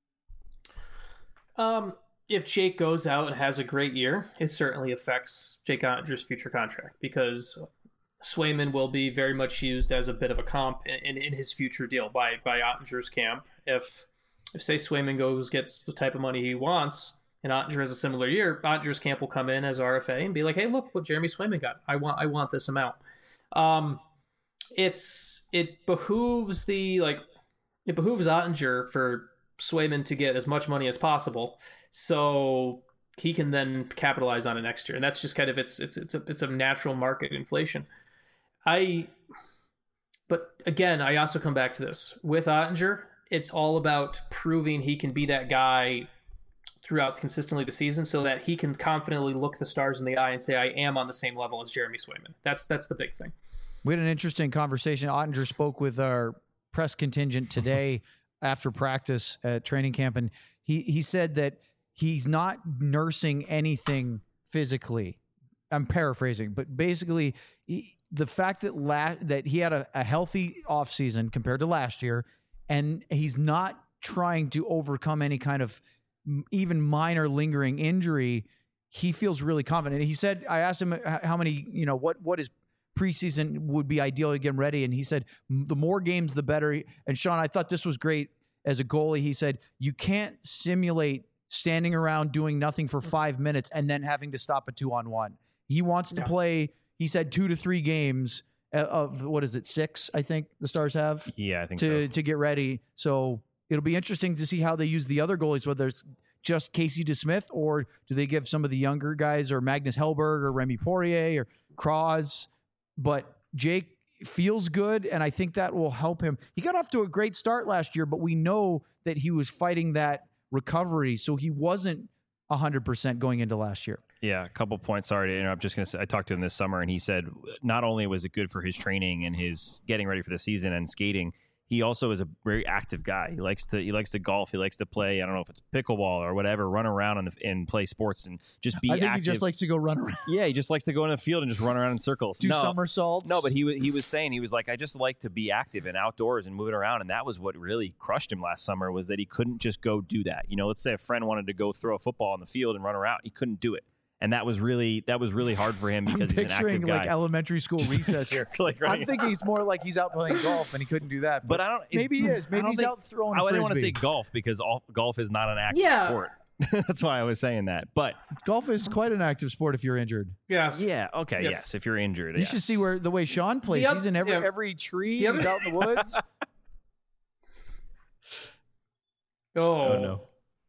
Um, if Jake goes out and has a great year, it certainly affects Jake Ottinger's future contract, because Swayman will be very much used as a bit of a comp in, in, in his future deal by by Ottinger's camp. If if say Swayman goes gets the type of money he wants, and Ottinger has a similar year, Ottinger's camp will come in as R F A and be like, "Hey, look what Jeremy Swayman got. I want, I want this amount." Um, it's it behooves the like, it behooves Ottinger for Swayman to get as much money as possible, so he can then capitalize on it next year. And that's just kind of it's it's it's a it's a natural market inflation. I, but again, I also come back to this with Ottinger. It's all about proving he can be that guy throughout consistently the season, so that he can confidently look the stars in the eye and say, I am on the same level as Jeremy Swayman. That's that's the big thing. We had an interesting conversation. Ottinger spoke with our press contingent today after practice at training camp, and he, he said that he's not nursing anything physically. I'm paraphrasing, but basically he, the fact that la- that he had a, a healthy offseason compared to last year, and he's not trying to overcome any kind of even minor lingering injury, he feels really confident. He said, I asked him how many, you know, what, what is preseason would be ideal to get him ready. And he said, the more games, the better. And Sean, I thought this was great as a goalie. He said, you can't simulate standing around doing nothing for five minutes and then having to stop a two on one. He wants to yeah. play, he said, two to three games of, what is it, six, I think the Stars have? Yeah, I think to, so. To get ready. So it'll be interesting to see how they use the other goalies, whether it's just Casey DeSmith, or do they give some of the younger guys, or Magnus Hellberg or Remy Poirier or Kraz. But Jake feels good, and I think that will help him. He got off to a great start last year, but we know that he was fighting that recovery, so he wasn't one hundred percent going into last year. Yeah, a couple points. Sorry to interrupt. Just going to say, I talked to him this summer, and he said not only was it good for his training and his getting ready for the season and skating, he also is a very active guy. He likes to he likes to golf. He likes to play, I don't know if it's pickleball or whatever, run around and, and play sports and just be I think active. He just likes to go run around. Yeah, he just likes to go in the field and just run around in circles. Do no, somersaults. No, but he, he was saying, he was like, I just like to be active and outdoors and moving around. And that was what really crushed him last summer, was that he couldn't just go do that. You know, let's say a friend wanted to go throw a football on the field and run around. He couldn't do it. And that was really that was really hard for him, because I'm he's an active picturing guy. like elementary school recess here. like I'm thinking he's more like he's out playing golf and he couldn't do that. But, but I don't. Maybe he is. Maybe he's think, out throwing. I a didn't want to say frisbee. golf, because all, golf is not an active yeah. sport. That's why I was saying that. But golf is quite an active sport if you're injured. Yes. yeah, okay, yes. Yes. If you're injured, You yes. should see where the way Sean plays. Yep. He's in every Yep. every tree. Yep. He's out in the woods. Oh, Oh no.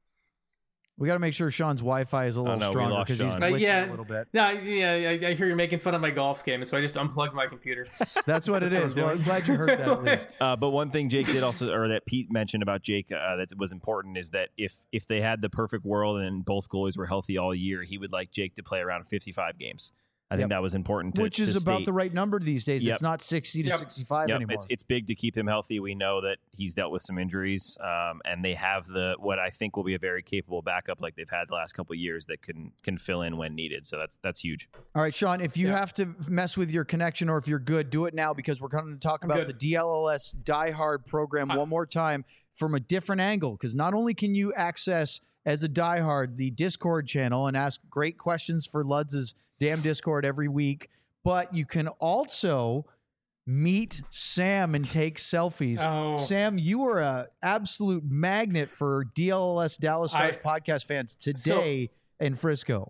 We got to make sure Sean's Wi-Fi is a little no, we stronger lost because he's Sean. Uh, glitching yeah. a little bit. No, yeah, I, I hear you're making fun of my golf game, and so I just unplugged my computer. That's what it That's what is. I'm Well, doing. I'm glad you heard that at least. Uh, but one thing Jake did also, or that Pete mentioned about Jake, uh, that was important is that if if they had the perfect world and both goalies were healthy all year, he would like Jake to play around fifty-five games. I Yep. think that was important. To, Which is to about state. the right number these days. Yep. It's not sixty to Yep. sixty-five Yep, anymore. it's it's big to keep him healthy. We know that he's dealt with some injuries, um, and they have the what I think will be a very capable backup like they've had the last couple of years that can can fill in when needed. So that's that's huge. All right, Sean, if you Yeah. have to mess with your connection or if you're good, do it now because we're going to talk I'm about good. the D L L S Die Hard program I- one more time from a different angle. Because not only can you access, as a diehard, the Discord channel and ask great questions for Ludz's damn Discord every week, but you can also meet Sam and take selfies. Oh. Sam, you are a absolute magnet for D L L S Dallas Stars I- podcast fans today in Frisco.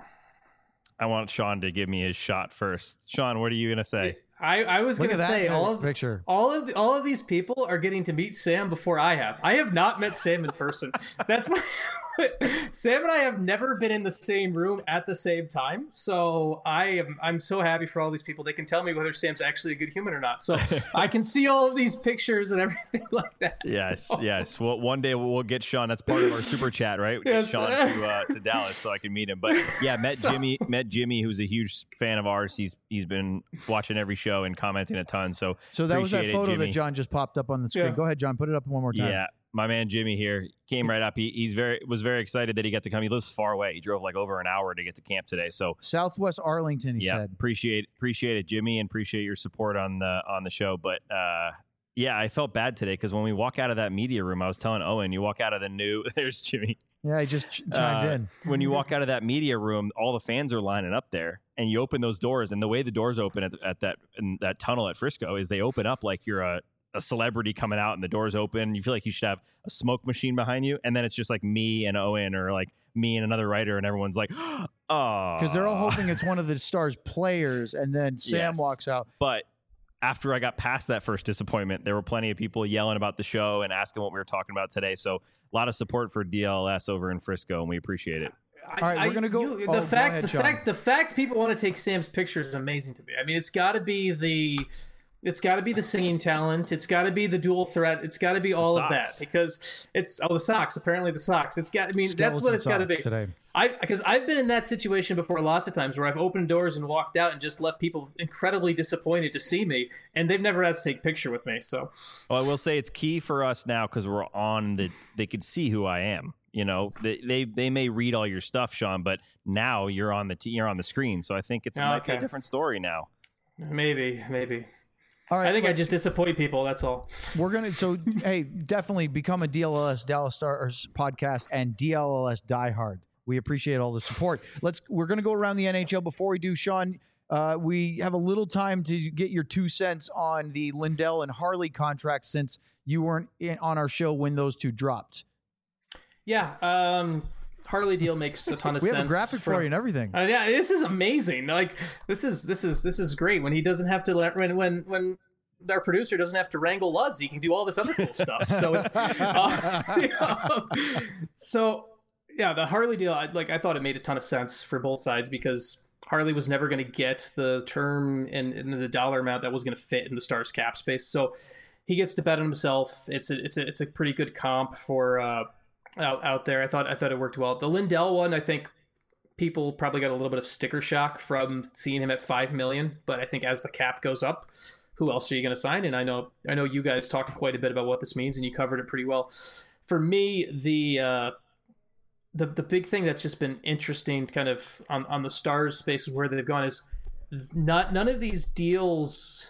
I want Sean to give me his shot first. Sean, what are you gonna say? I, I was Look going at to that say kind all of of picture. all of the, all of these people are getting to meet Sam before I have. I have not met Sam in person. That's my Sam and I have never been in the same room at the same time. So I am I'm so happy for all these people. They can tell me whether Sam's actually a good human or not. So I can see all of these pictures and everything like that. Yes, So- yes. Well, one day we'll get Sean. That's part of our super chat, right? We get Yes. Sean to uh, to Dallas so I can meet him. But yeah, met So- Jimmy. Met Jimmy, who's a huge fan of ours. He's he's been watching every show and commenting a ton. So So that was that appreciate it, photo that Jimmy. John just popped up on the screen. Yeah. Go ahead, John. Put it up one more time. Yeah, my man Jimmy here came right up. He he's very was very excited that he got to come. He lives far away. He drove like over an hour to get to camp today. So Southwest Arlington, he yeah, said. appreciate appreciate it, Jimmy, and appreciate your support on the on the show. But uh, yeah, I felt bad today because when we walk out of that media room, I was telling Owen, you walk out of the new. There's Jimmy. Yeah, he just ch- chimed Uh, in. when you walk out of that media room, all the fans are lining up there, and you open those doors. And the way the doors open at, at that in that tunnel at Frisco is they open up like you're a, a celebrity coming out, and the doors open. You feel like you should have a smoke machine behind you, and then it's just like me and Owen, or like me and another writer, and everyone's like, "Oh," Because they're all hoping it's one of the Stars players, and then Sam Yes. walks out. But after I got past that first disappointment, there were plenty of people yelling about the show and asking what we were talking about today. So a lot of support for D L S over in Frisco, and we appreciate it. I- All right, we're I- gonna go- you- oh, the go fact, ahead, the Sean. fact, the fact people want to take Sam's picture is amazing to me. I mean, it's got to be the, it's got to be the singing talent. It's got to be the dual threat. It's got to be all of that socks. because it's oh the socks. Apparently the socks. It's got. I mean, that's what Skeleton it's got to be. socks today. I because I've been in that situation before lots of times where I've opened doors and walked out and just left people incredibly disappointed to see me, and they've never asked to take a picture with me. So Well, I will say it's key for us now because we're on the. They can see who I am. You know, they, they they may read all your stuff, Sean, but now you're on the t- you're on the screen. So I think it's Oh, might be a okay. different story now. maybe, maybe. All right, I think I let's- just disappoint people. That's all. we're gonna. So hey, definitely become a D L L S Dallas Stars podcast and D L L S diehard. We appreciate all the support. Let's. We're gonna go around the N H L. Before we do, Sean, uh, we have a little time to get your two cents on the Lindell and Harley contracts since you weren't in, on our show when those two dropped. Yeah, um, Harley deal makes a ton of We sense. have a graphic for from- you and everything. Uh, yeah, this is amazing. Like this is this is this is great when he doesn't have to let when when when our producer doesn't have to wrangle Lutz. He can do all this other cool stuff. So it's uh, yeah. so yeah, the Harley deal. I, like I thought it made a ton of sense for both sides because Harley was never going to get the term and, and the dollar amount that was going to fit in the Stars cap space. So he gets to bet on himself. It's a it's a it's a pretty good comp for. Uh, Out, out there, I thought I thought it worked well. The Lindell one, I think people probably got a little bit of sticker shock from seeing him at five million. But I think as the cap goes up, who else are you going to sign? And I know I know you guys talked quite a bit about what this means, and you covered it pretty well. For me, the uh, the the big thing that's just been interesting, kind of on on the Stars space where they've gone is not none of these deals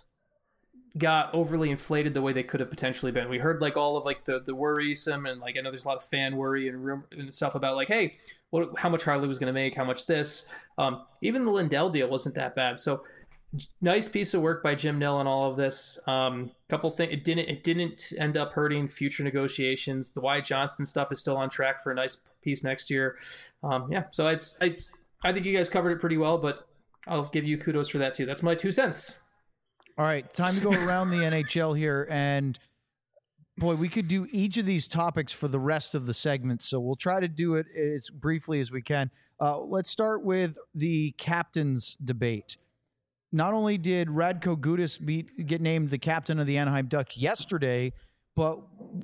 got overly inflated the way they could have potentially been. We heard like all of like the the worrisome and like I know there's a lot of fan worry and rumor and stuff about like, hey, what how much Harley was going to make, how much this. Um, even the Lindell deal wasn't that bad. So nice piece of work by Jim Nill on all of this. Um, couple things it didn't it didn't end up hurting future negotiations. The Wyatt Johnson stuff is still on track for a nice piece next year. Um, yeah, so it's it's I think you guys covered it pretty well, but I'll give you kudos for that too. That's my two cents. All right, time to go around the N H L here, and boy, we could do each of these topics for the rest of the segment, so we'll try to do it as briefly as we can. Uh, let's start with the captain's debate. Not only did Radko Gudas be, get named the captain of the Anaheim Ducks yesterday, but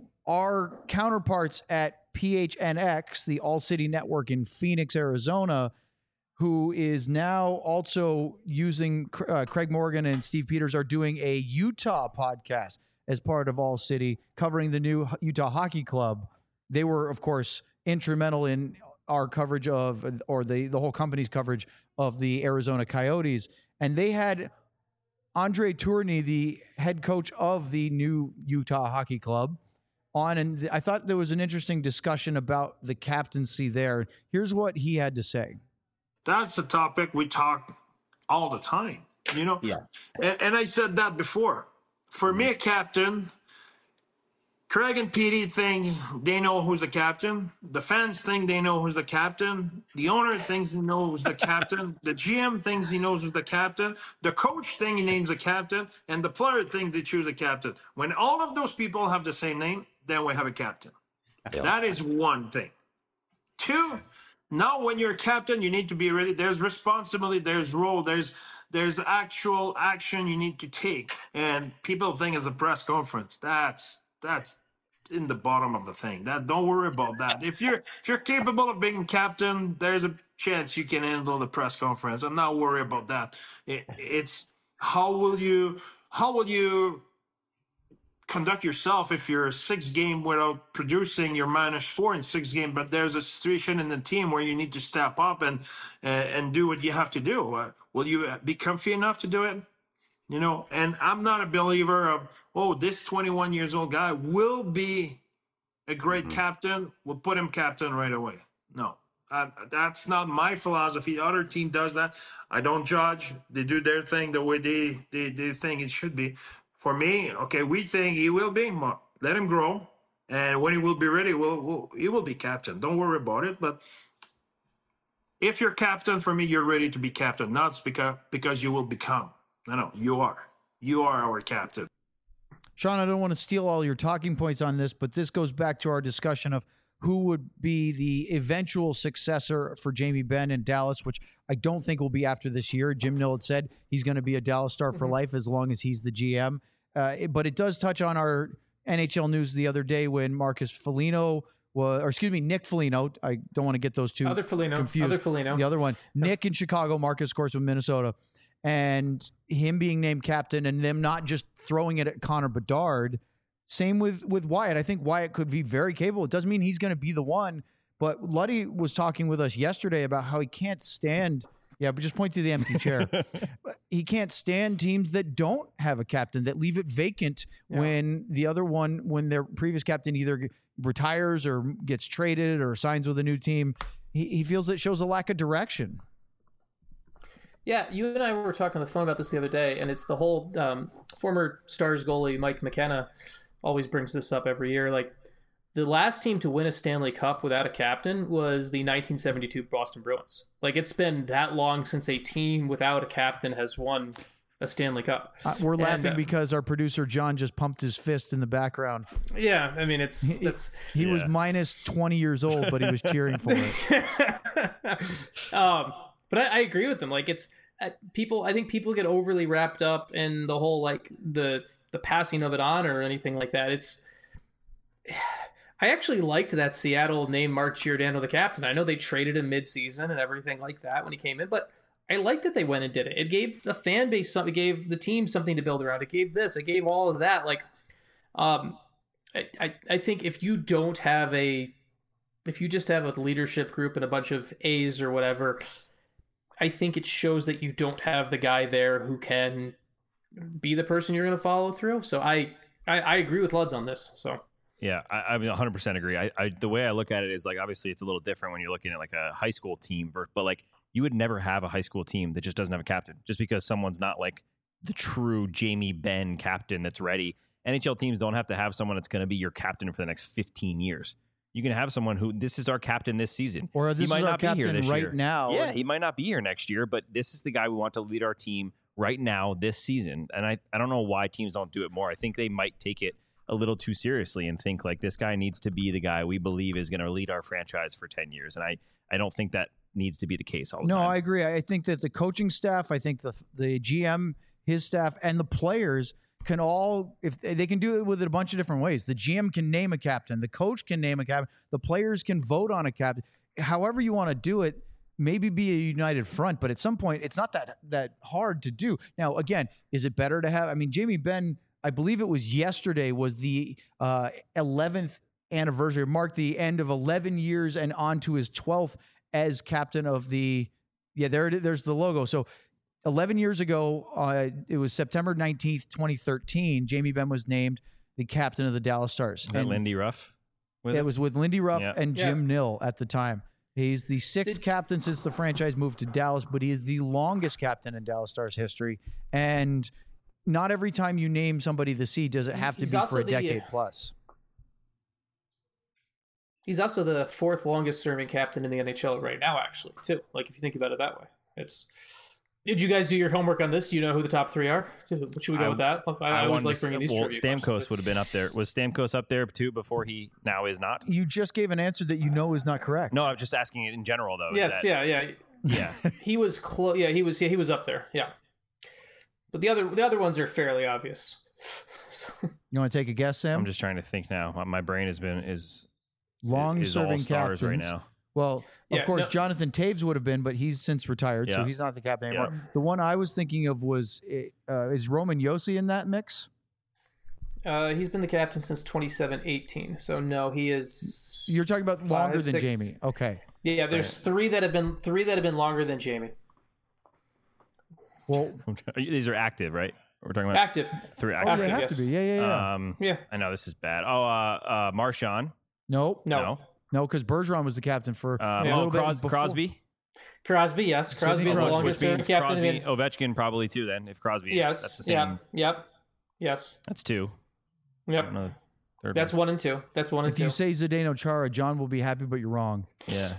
our counterparts at P H N X, the All City Network in Phoenix, Arizona, who is now also using uh, Craig Morgan and Steve Peters are doing a Utah podcast as part of All City, covering the new Utah Hockey Club. They were, of course, instrumental in our coverage of, or the, the whole company's coverage of the Arizona Coyotes. And they had Andre Tourigny, the head coach of the new Utah Hockey Club, on. And th- I thought there was an interesting discussion about the captaincy there. Here's what he had to say. That's a topic we talk all the time, you know? Yeah. And, and I said that before. For me, a captain, Craig and Petey think they know who's the captain. The fans think they know who's the captain. The owner thinks he knows who's the captain. The G M thinks he knows who's the captain. The coach thinks he names the captain. And the player thinks they choose a captain. When all of those people have the same name, then we have a captain. Yeah. That is one thing. Two, now when you're a captain, you need to be ready. There's responsibility, there's role, there's there's actual action you need to take. And people think it's a press conference. That's that's in the bottom of the thing. That don't worry about that. If you're if you're capable of being captain, there's a chance you can handle the press conference. I'm not worried about that. It, it's how will you how will you conduct yourself if you're six game without producing, you're minus four in six game, but there's a situation in the team where you need to step up and uh, and do what you have to do. Uh, will you be comfy enough to do it? You know, and I'm not a believer of, oh, this twenty-one years old guy will be a great mm-hmm. captain. We'll put him captain right away. No, uh, that's not my philosophy. The other team does that. I don't judge. They do their thing the way they, they, they think it should be. For me, okay, we think he will be. Let him grow. And when he will be ready, we'll, we'll, he will be captain. Don't worry about it. But if you're captain, for me, you're ready to be captain. Not because, because you will become. No, no, you are. You are our captain. Sean, I don't want to steal all your talking points on this, but this goes back to our discussion of who would be the eventual successor for Jamie Benn in Dallas, which I don't think will be after this year. Jim Nill had said he's going to be a Dallas Star for mm-hmm. life as long as he's the G M. Uh, it, but it does touch on our N H L news the other day when Marcus Foligno was, or excuse me, Nick Foligno. I don't want to get those two other Foligno, confused. Other Foligno. The other one, Nick in Chicago, Marcus, of course, with Minnesota. And him being named captain and them not just throwing it at Connor Bedard. Same with, with Wyatt. I think Wyatt could be very capable. It doesn't mean he's going to be the one, but Luddy was talking with us yesterday about how he can't stand, yeah, but just point to the empty chair. He can't stand teams that don't have a captain, that leave it vacant yeah. when the other one, when their previous captain either retires or gets traded or signs with a new team. He, he feels it shows a lack of direction. Yeah, you and I were talking on the phone about this the other day, and it's the whole um, former Stars goalie Mike McKenna always brings this up every year. Like, the last team to win a Stanley Cup without a captain was the nineteen seventy-two Boston Bruins. Like, it's been that long since a team without a captain has won a Stanley Cup. Uh, we're and, laughing uh, because our producer John just pumped his fist in the background. Yeah, I mean, it's he, that's he yeah. was minus twenty years old, but he was cheering for it. um, but I, I agree with him. Like, it's uh, people. I think people get overly wrapped up in the whole like the the passing of it on or anything like that. It's. I actually liked that Seattle named Mark Giordano the captain. I know they traded him mid-season and everything like that when he came in, but I liked that they went and did it. It gave the fan base something, it gave the team something to build around. It gave this, it gave all of that. Like, um, I, I, I think if you don't have a, if you just have a leadership group and a bunch of A's or whatever, I think it shows that you don't have the guy there who can be the person you're going to follow through. So I, I, I agree with Luds on this. So. Yeah, I, I mean, one hundred percent agree. I, I, the way I look at it is like, obviously it's a little different when you're looking at like a high school team, but like you would never have a high school team that just doesn't have a captain just because someone's not like the true Jamie Benn captain that's ready. N H L teams don't have to have someone that's going to be your captain for the next fifteen years. You can have someone who this is our captain this season, or this he might is our not be here captain this right year. now. Yeah, he might not be here next year, but this is the guy we want to lead our team right now this season. And I, I don't know why teams don't do it more. I think they might take it a little too seriously and think like this guy needs to be the guy we believe is going to lead our franchise for ten years. And I, I don't think that needs to be the case all the no, time. I agree. I think that the coaching staff, I think the the G M, his staff, and the players can all, if they can do it with it a bunch of different ways. The G M can name a captain, the coach can name a captain, the players can vote on a captain. However you want to do it, maybe be a united front, but at some point it's not that that hard to do. Now, again, is it better to have? I mean, Jamie Benn, I believe it was yesterday, was the uh, eleventh anniversary, marked the end of eleven years and on to his twelfth as captain of the. Yeah, there it is, there's the logo. So. eleven years ago, uh, it was September nineteenth, twenty thirteen, Jamie Benn was named the captain of the Dallas Stars. Is that And Lindy Ruff? With it it was with Lindy Ruff Yeah. and Jim Yeah. Nill at the time. He's the sixth Did- captain since the franchise moved to Dallas, but he is the longest captain in Dallas Stars history. And not every time you name somebody the C does it have to He's be for also a the- decade plus. He's also the fourth longest serving captain in the N H L right now, actually, too. Like, if you think about it that way. It's. Did you guys do your homework on this? Do you know who the top three are? Should we go I- with that? I, I always wanted like to bringing say- these well, trivia Stamkos questions. would have been up there. Was Stamkos up there too before he now is not? You just gave an answer that you know is not correct. No, I'm just asking it in general though. Is Yes, that- yeah, yeah. yeah. He was close. Yeah, he was. Yeah, he was up there. Yeah, but the other the other ones are fairly obvious. So, You want to take a guess, Sam? I'm just trying to think now. My- My brain has been is Long is all serving stars captains. right now. Well, of Yeah, course, no- Jonathan Taves would have been, but he's since retired, so Yeah. he's not the captain Yeah. anymore. The one I was thinking of was, uh, is Roman Yossi in that mix? uh, he's been the captain since twenty-seven eighteen. So no, he is. You're talking about longer Five, than six- Jamie. Okay. Yeah, there's three that have been three that have been longer than Jamie. Well, These are active, right? We're talking about Active. three oh, active. they have yes. to be. Yeah, yeah, yeah. Um, Yeah. I know this is bad. Oh, uh, uh, Marchand. nope. No. No. No, because Bergeron was the captain for Um, a oh, little bit Cros- before. Crosby. Crosby, yes. Sidney Crosby is the Crosby, longest Which serving means captain. Crosby, in- Ovechkin probably too. Then if Crosby, is, Yes. that's the same. Yeah. Yep. Yes. That's two. I Yep. don't know. Third That's one. one and two. That's one and If two. you say Zdeno Chara, John will be happy, but you're wrong. Yeah.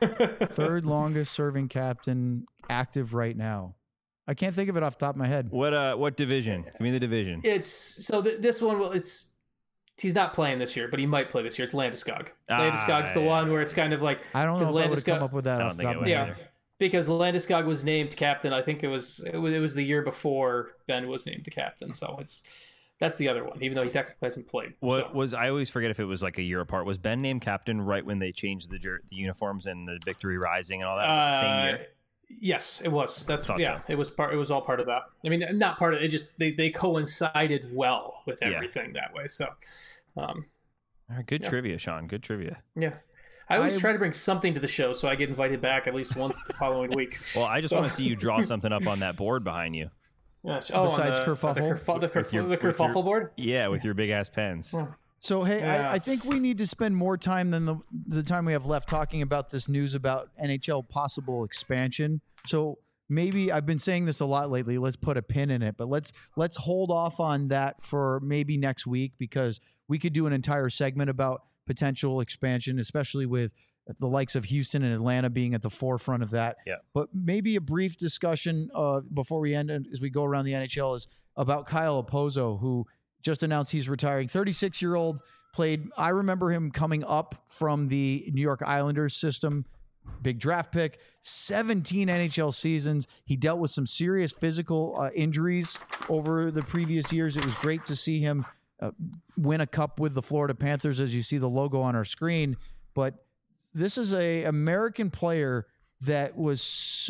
Third longest serving captain active right now. I can't think of it off the top of my head. What uh? What division? Give me the division. It's so th- this one will it's he's not playing this year, but he might play this year. It's Landeskog. Ah, Landeskog's the yeah. one where it's kind of like I don't know if because I would have come Landeskog- up with that I off don't the think top of it my would head. yeah, either. because Landeskog was named captain. I think it was it was, it was the year before Ben was named the captain. So it's that's the other one, even though he technically hasn't played. What so. was I always forget if it was like a year apart. Was Ben named captain right when they changed the jer- the uniforms and the Victory Rising and all that? Was that the same year? Uh, Yes, it was. That's Thought yeah. so. It was part. It was all part of that. I mean, not part of it. Just they, they coincided well with Yeah. everything that way. So, um, All right, good Yeah. trivia, Sean. Good trivia. yeah. I always I- try to bring something to the show so I get invited back at least once the following week. Well, I just So- want to see you draw something up on that board behind you. Yeah. Oh, on Besides the, kerfuffle? the, kerfu- the, With your- kerfu- the with your- kerfuffle board. Yeah, with your big ass pens. So hey, Yeah. I, I think we need to spend more time than the the time we have left talking about this news about N H L possible expansion. So maybe I've been saying this a lot lately. Let's put a pin in it, but let's let's hold off on that for maybe next week because we could do an entire segment about potential expansion, especially with the likes of Houston and Atlanta being at the forefront of that. Yeah. But maybe a brief discussion uh, before we end as we go around the N H L is about Kyle Opozo, who just announced he's retiring. thirty-six-year-old played. I remember him coming up from the New York Islanders system. Big draft pick, seventeen N H L seasons. He dealt with some serious physical uh, injuries over the previous years. It was great to see him uh, win a cup with the Florida Panthers, as you see the logo on our screen. But this is a American player that was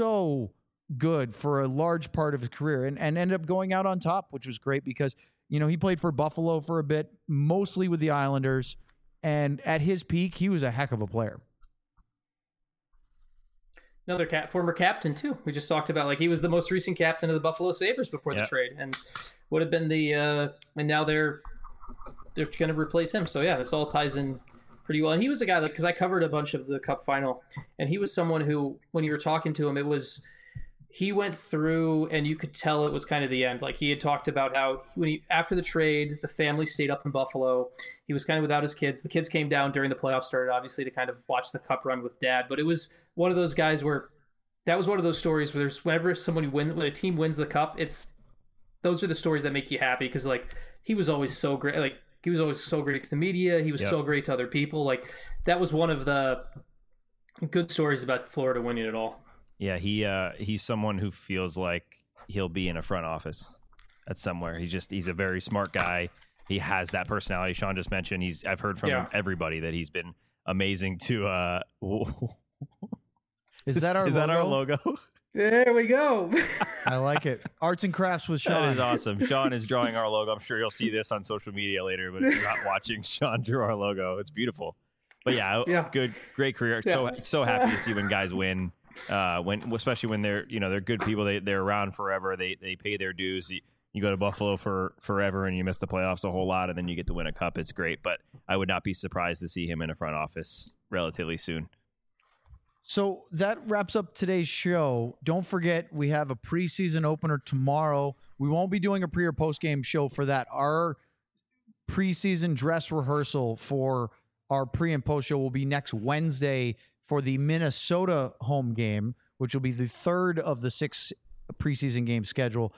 so good for a large part of his career and, and ended up going out on top, which was great because, you know, he played for Buffalo for a bit, mostly with the Islanders. And at his peak, he was a heck of a player. Another cap, former captain too. We just talked about like he was the most recent captain of the Buffalo Sabres before Yeah. the trade, and would have been the uh, and now they're they're going to replace him. So yeah, this all ties in pretty well. And he was a guy like because I covered a bunch of the Cup final, and he was someone who when you were talking to him, it was he went through, and you could tell it was kind of the end. Like, he had talked about how when he, after the trade, the family stayed up in Buffalo. He was kind of without his kids. The kids came down during the playoffs started, obviously, to kind of watch the Cup run with Dad. But it was one of those guys where that was one of those stories where there's whenever someone win, when a team wins the Cup, it's those are the stories that make you happy because like he was always so great. Like he was always so great to the media. He was yep. so great to other people. Like that was one of the good stories about Florida winning it all. Yeah, he uh, he's someone who feels like he'll be in a front office at somewhere. He's just he's a very smart guy. He has that personality Sean just mentioned. He's I've heard from yeah. everybody that he's been amazing to. Uh, is that our is logo? that our logo? There we go. I like it. Arts and crafts with Sean. That is awesome. Sean is drawing our logo. I'm sure you'll see this on social media later. But if you're not watching Sean drew our logo, it's beautiful. But yeah, yeah. good, great career. Yeah. So so happy to see when guys win. Uh, when especially when they're you know they're good people, they they're around forever. They they pay their dues. You, you go to Buffalo for forever and you miss the playoffs a whole lot, and then you get to win a cup. It's great, but I would not be surprised to see him in a front office relatively soon. So that wraps up today's show. Don't forget we have a preseason opener tomorrow. We won't be doing a pre or post game show for that. Our preseason dress rehearsal for our pre and post show will be next Wednesday for the Minnesota home game, which will be the third of the six preseason game schedule.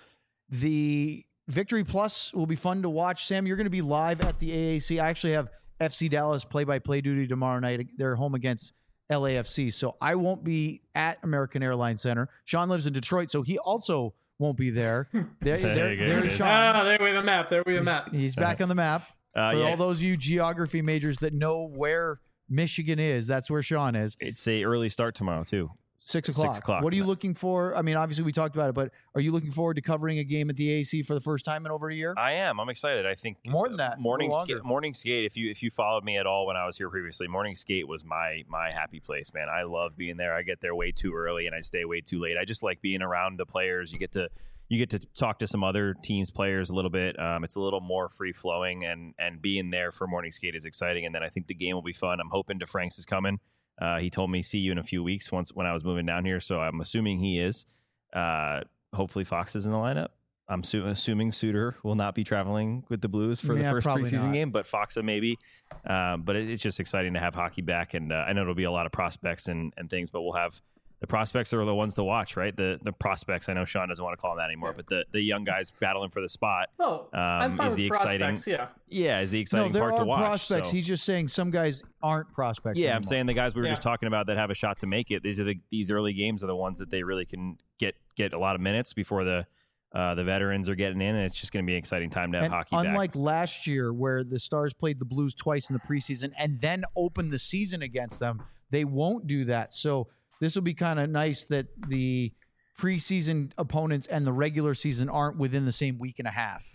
The Victory Plus will be fun to watch. Sam, you're going to be live at the A A C. I actually have F C Dallas play-by-play duty tomorrow night. They're home against L A F C, so I won't be at American Airlines Center. Sean lives in Detroit, so he also won't be there. There, there, there is Sean. Ah, there we have a map. There we have a map. He's, he's back on the map. Uh, For yeah. all those of you geography majors that know where Michigan is, that's where Sean is. It's a early start tomorrow too. Six o'clock. Six o'clock. What are you looking for? I mean, obviously we talked about it, but are you looking forward to covering a game at the A A C for the first time in over a year? I am. I'm excited. I think more than that. Morning skate. Morning skate. If you if you followed me at all when I was here previously, morning skate was my my happy place, man. I love being there. I get there way too early and I stay way too late. I just like being around the players. You get to you get to talk to some other teams' players a little bit. Um, it's a little more free flowing, and and being there for morning skate is exciting. And then I think the game will be fun. I'm hoping DeFranks is coming. Uh, he told me see you in a few weeks once when I was moving down here, so I'm assuming he is. Uh, hopefully Fox is in the lineup. I'm su- assuming Suter will not be traveling with the Blues for yeah, the first preseason not. game, but Foxa maybe. Um, but it, it's just exciting to have hockey back, and uh, I know it'll be a lot of prospects and, and things, but we'll have the prospects are the ones to watch, right? The the prospects. I know Sean doesn't want to call them that anymore, but the, the young guys battling for the spot. Oh, um, I'm fine is with the exciting. Yeah, yeah, is the exciting no, there part are to watch. Prospects. So. He's just saying some guys aren't prospects. Yeah, anymore. I'm saying the guys we were yeah. just talking about that have a shot to make it. These are the these early games are the ones that they really can get get a lot of minutes before the uh, the veterans are getting in, and it's just going to be an exciting time to have and hockey unlike back. last year where the Stars played the Blues twice in the preseason and then opened the season against them, they won't do that. So this will be kind of nice that the preseason opponents and the regular season aren't within the same week and a half.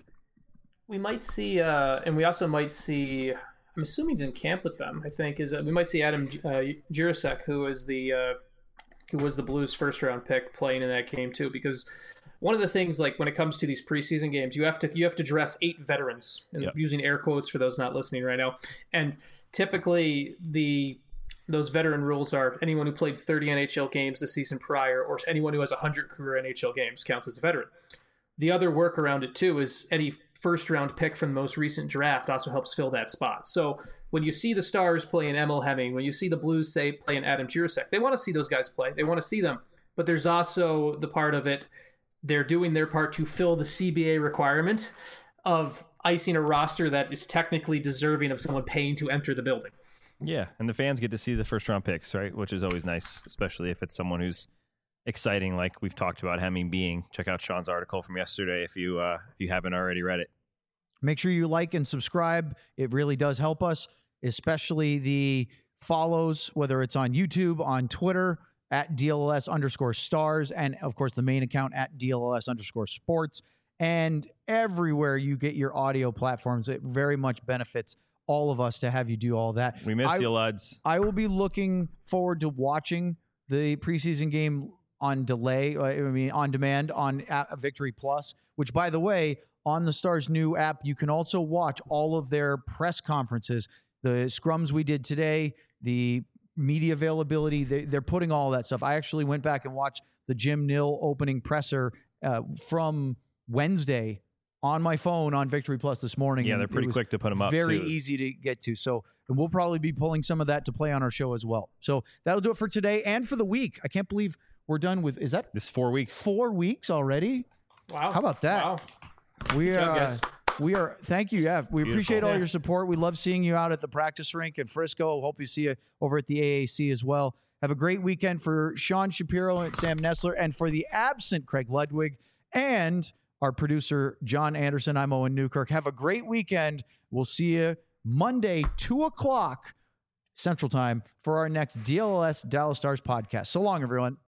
We might see, uh, and we also might see, I'm assuming he's in camp with them, I think, is uh, we might see Adam uh, Jirasek, who is the uh, who was the Blues first round pick, playing in that game too, because one of the things, like when it comes to these preseason games, you have to you have to dress eight veterans, and yep. using air quotes for those not listening right now. And typically the those veteran rules are anyone who played thirty N H L games the season prior, or anyone who has one hundred career N H L games counts as a veteran. The other work around it too is any first round pick from the most recent draft also helps fill that spot. So when you see the Stars playing Emil Hemming, when you see the Blues say playing Adam Jirasek, they want to see those guys play. They want to see them. But there's also the part of it, they're doing their part to fill the C B A requirement of icing a roster that is technically deserving of someone paying to enter the building. Yeah, and the fans get to see the first round picks, right? Which is always nice, especially if it's someone who's exciting, like we've talked about Hemming being. Check out Sean's article from yesterday if you uh, if you haven't already read it. Make sure you like and subscribe. It really does help us, especially the follows, whether it's on YouTube, on Twitter, at D L L S underscore stars, and of course the main account at D L L S underscore sports, and everywhere you get your audio platforms. It very much benefits all of us to have you do all that. We miss I, you, lads. I will be looking forward to watching the preseason game on delay, I mean, on demand on Victory Plus, which, by the way, on the Stars' new app, you can also watch all of their press conferences, the scrums we did today, the media availability. They, they're putting all that stuff. I actually went back and watched the Jim Nill opening presser uh, from Wednesday on my phone on Victory Plus this morning. Yeah, they're pretty quick to put them up. Very too. easy to get to. So, and we'll probably be pulling some of that to play on our show as well. So that'll do it for today and for the week. I can't believe we're done with, is that this four weeks? Four weeks already? Wow. How about that? Wow. We Good job, are, guys. we are, thank you. Yeah, we Beautiful. appreciate all Yeah. your support. We love seeing you out at the practice rink in Frisco. Hope you see you over at the A A C as well. Have a great weekend for Sean Shapiro and Sam Nessler, and for the absent Craig Ludwig and our producer, John Anderson. I'm Owen Newkirk. Have a great weekend. We'll see you Monday, two o'clock Central Time for our next D L L S Dallas Stars podcast. So long, everyone.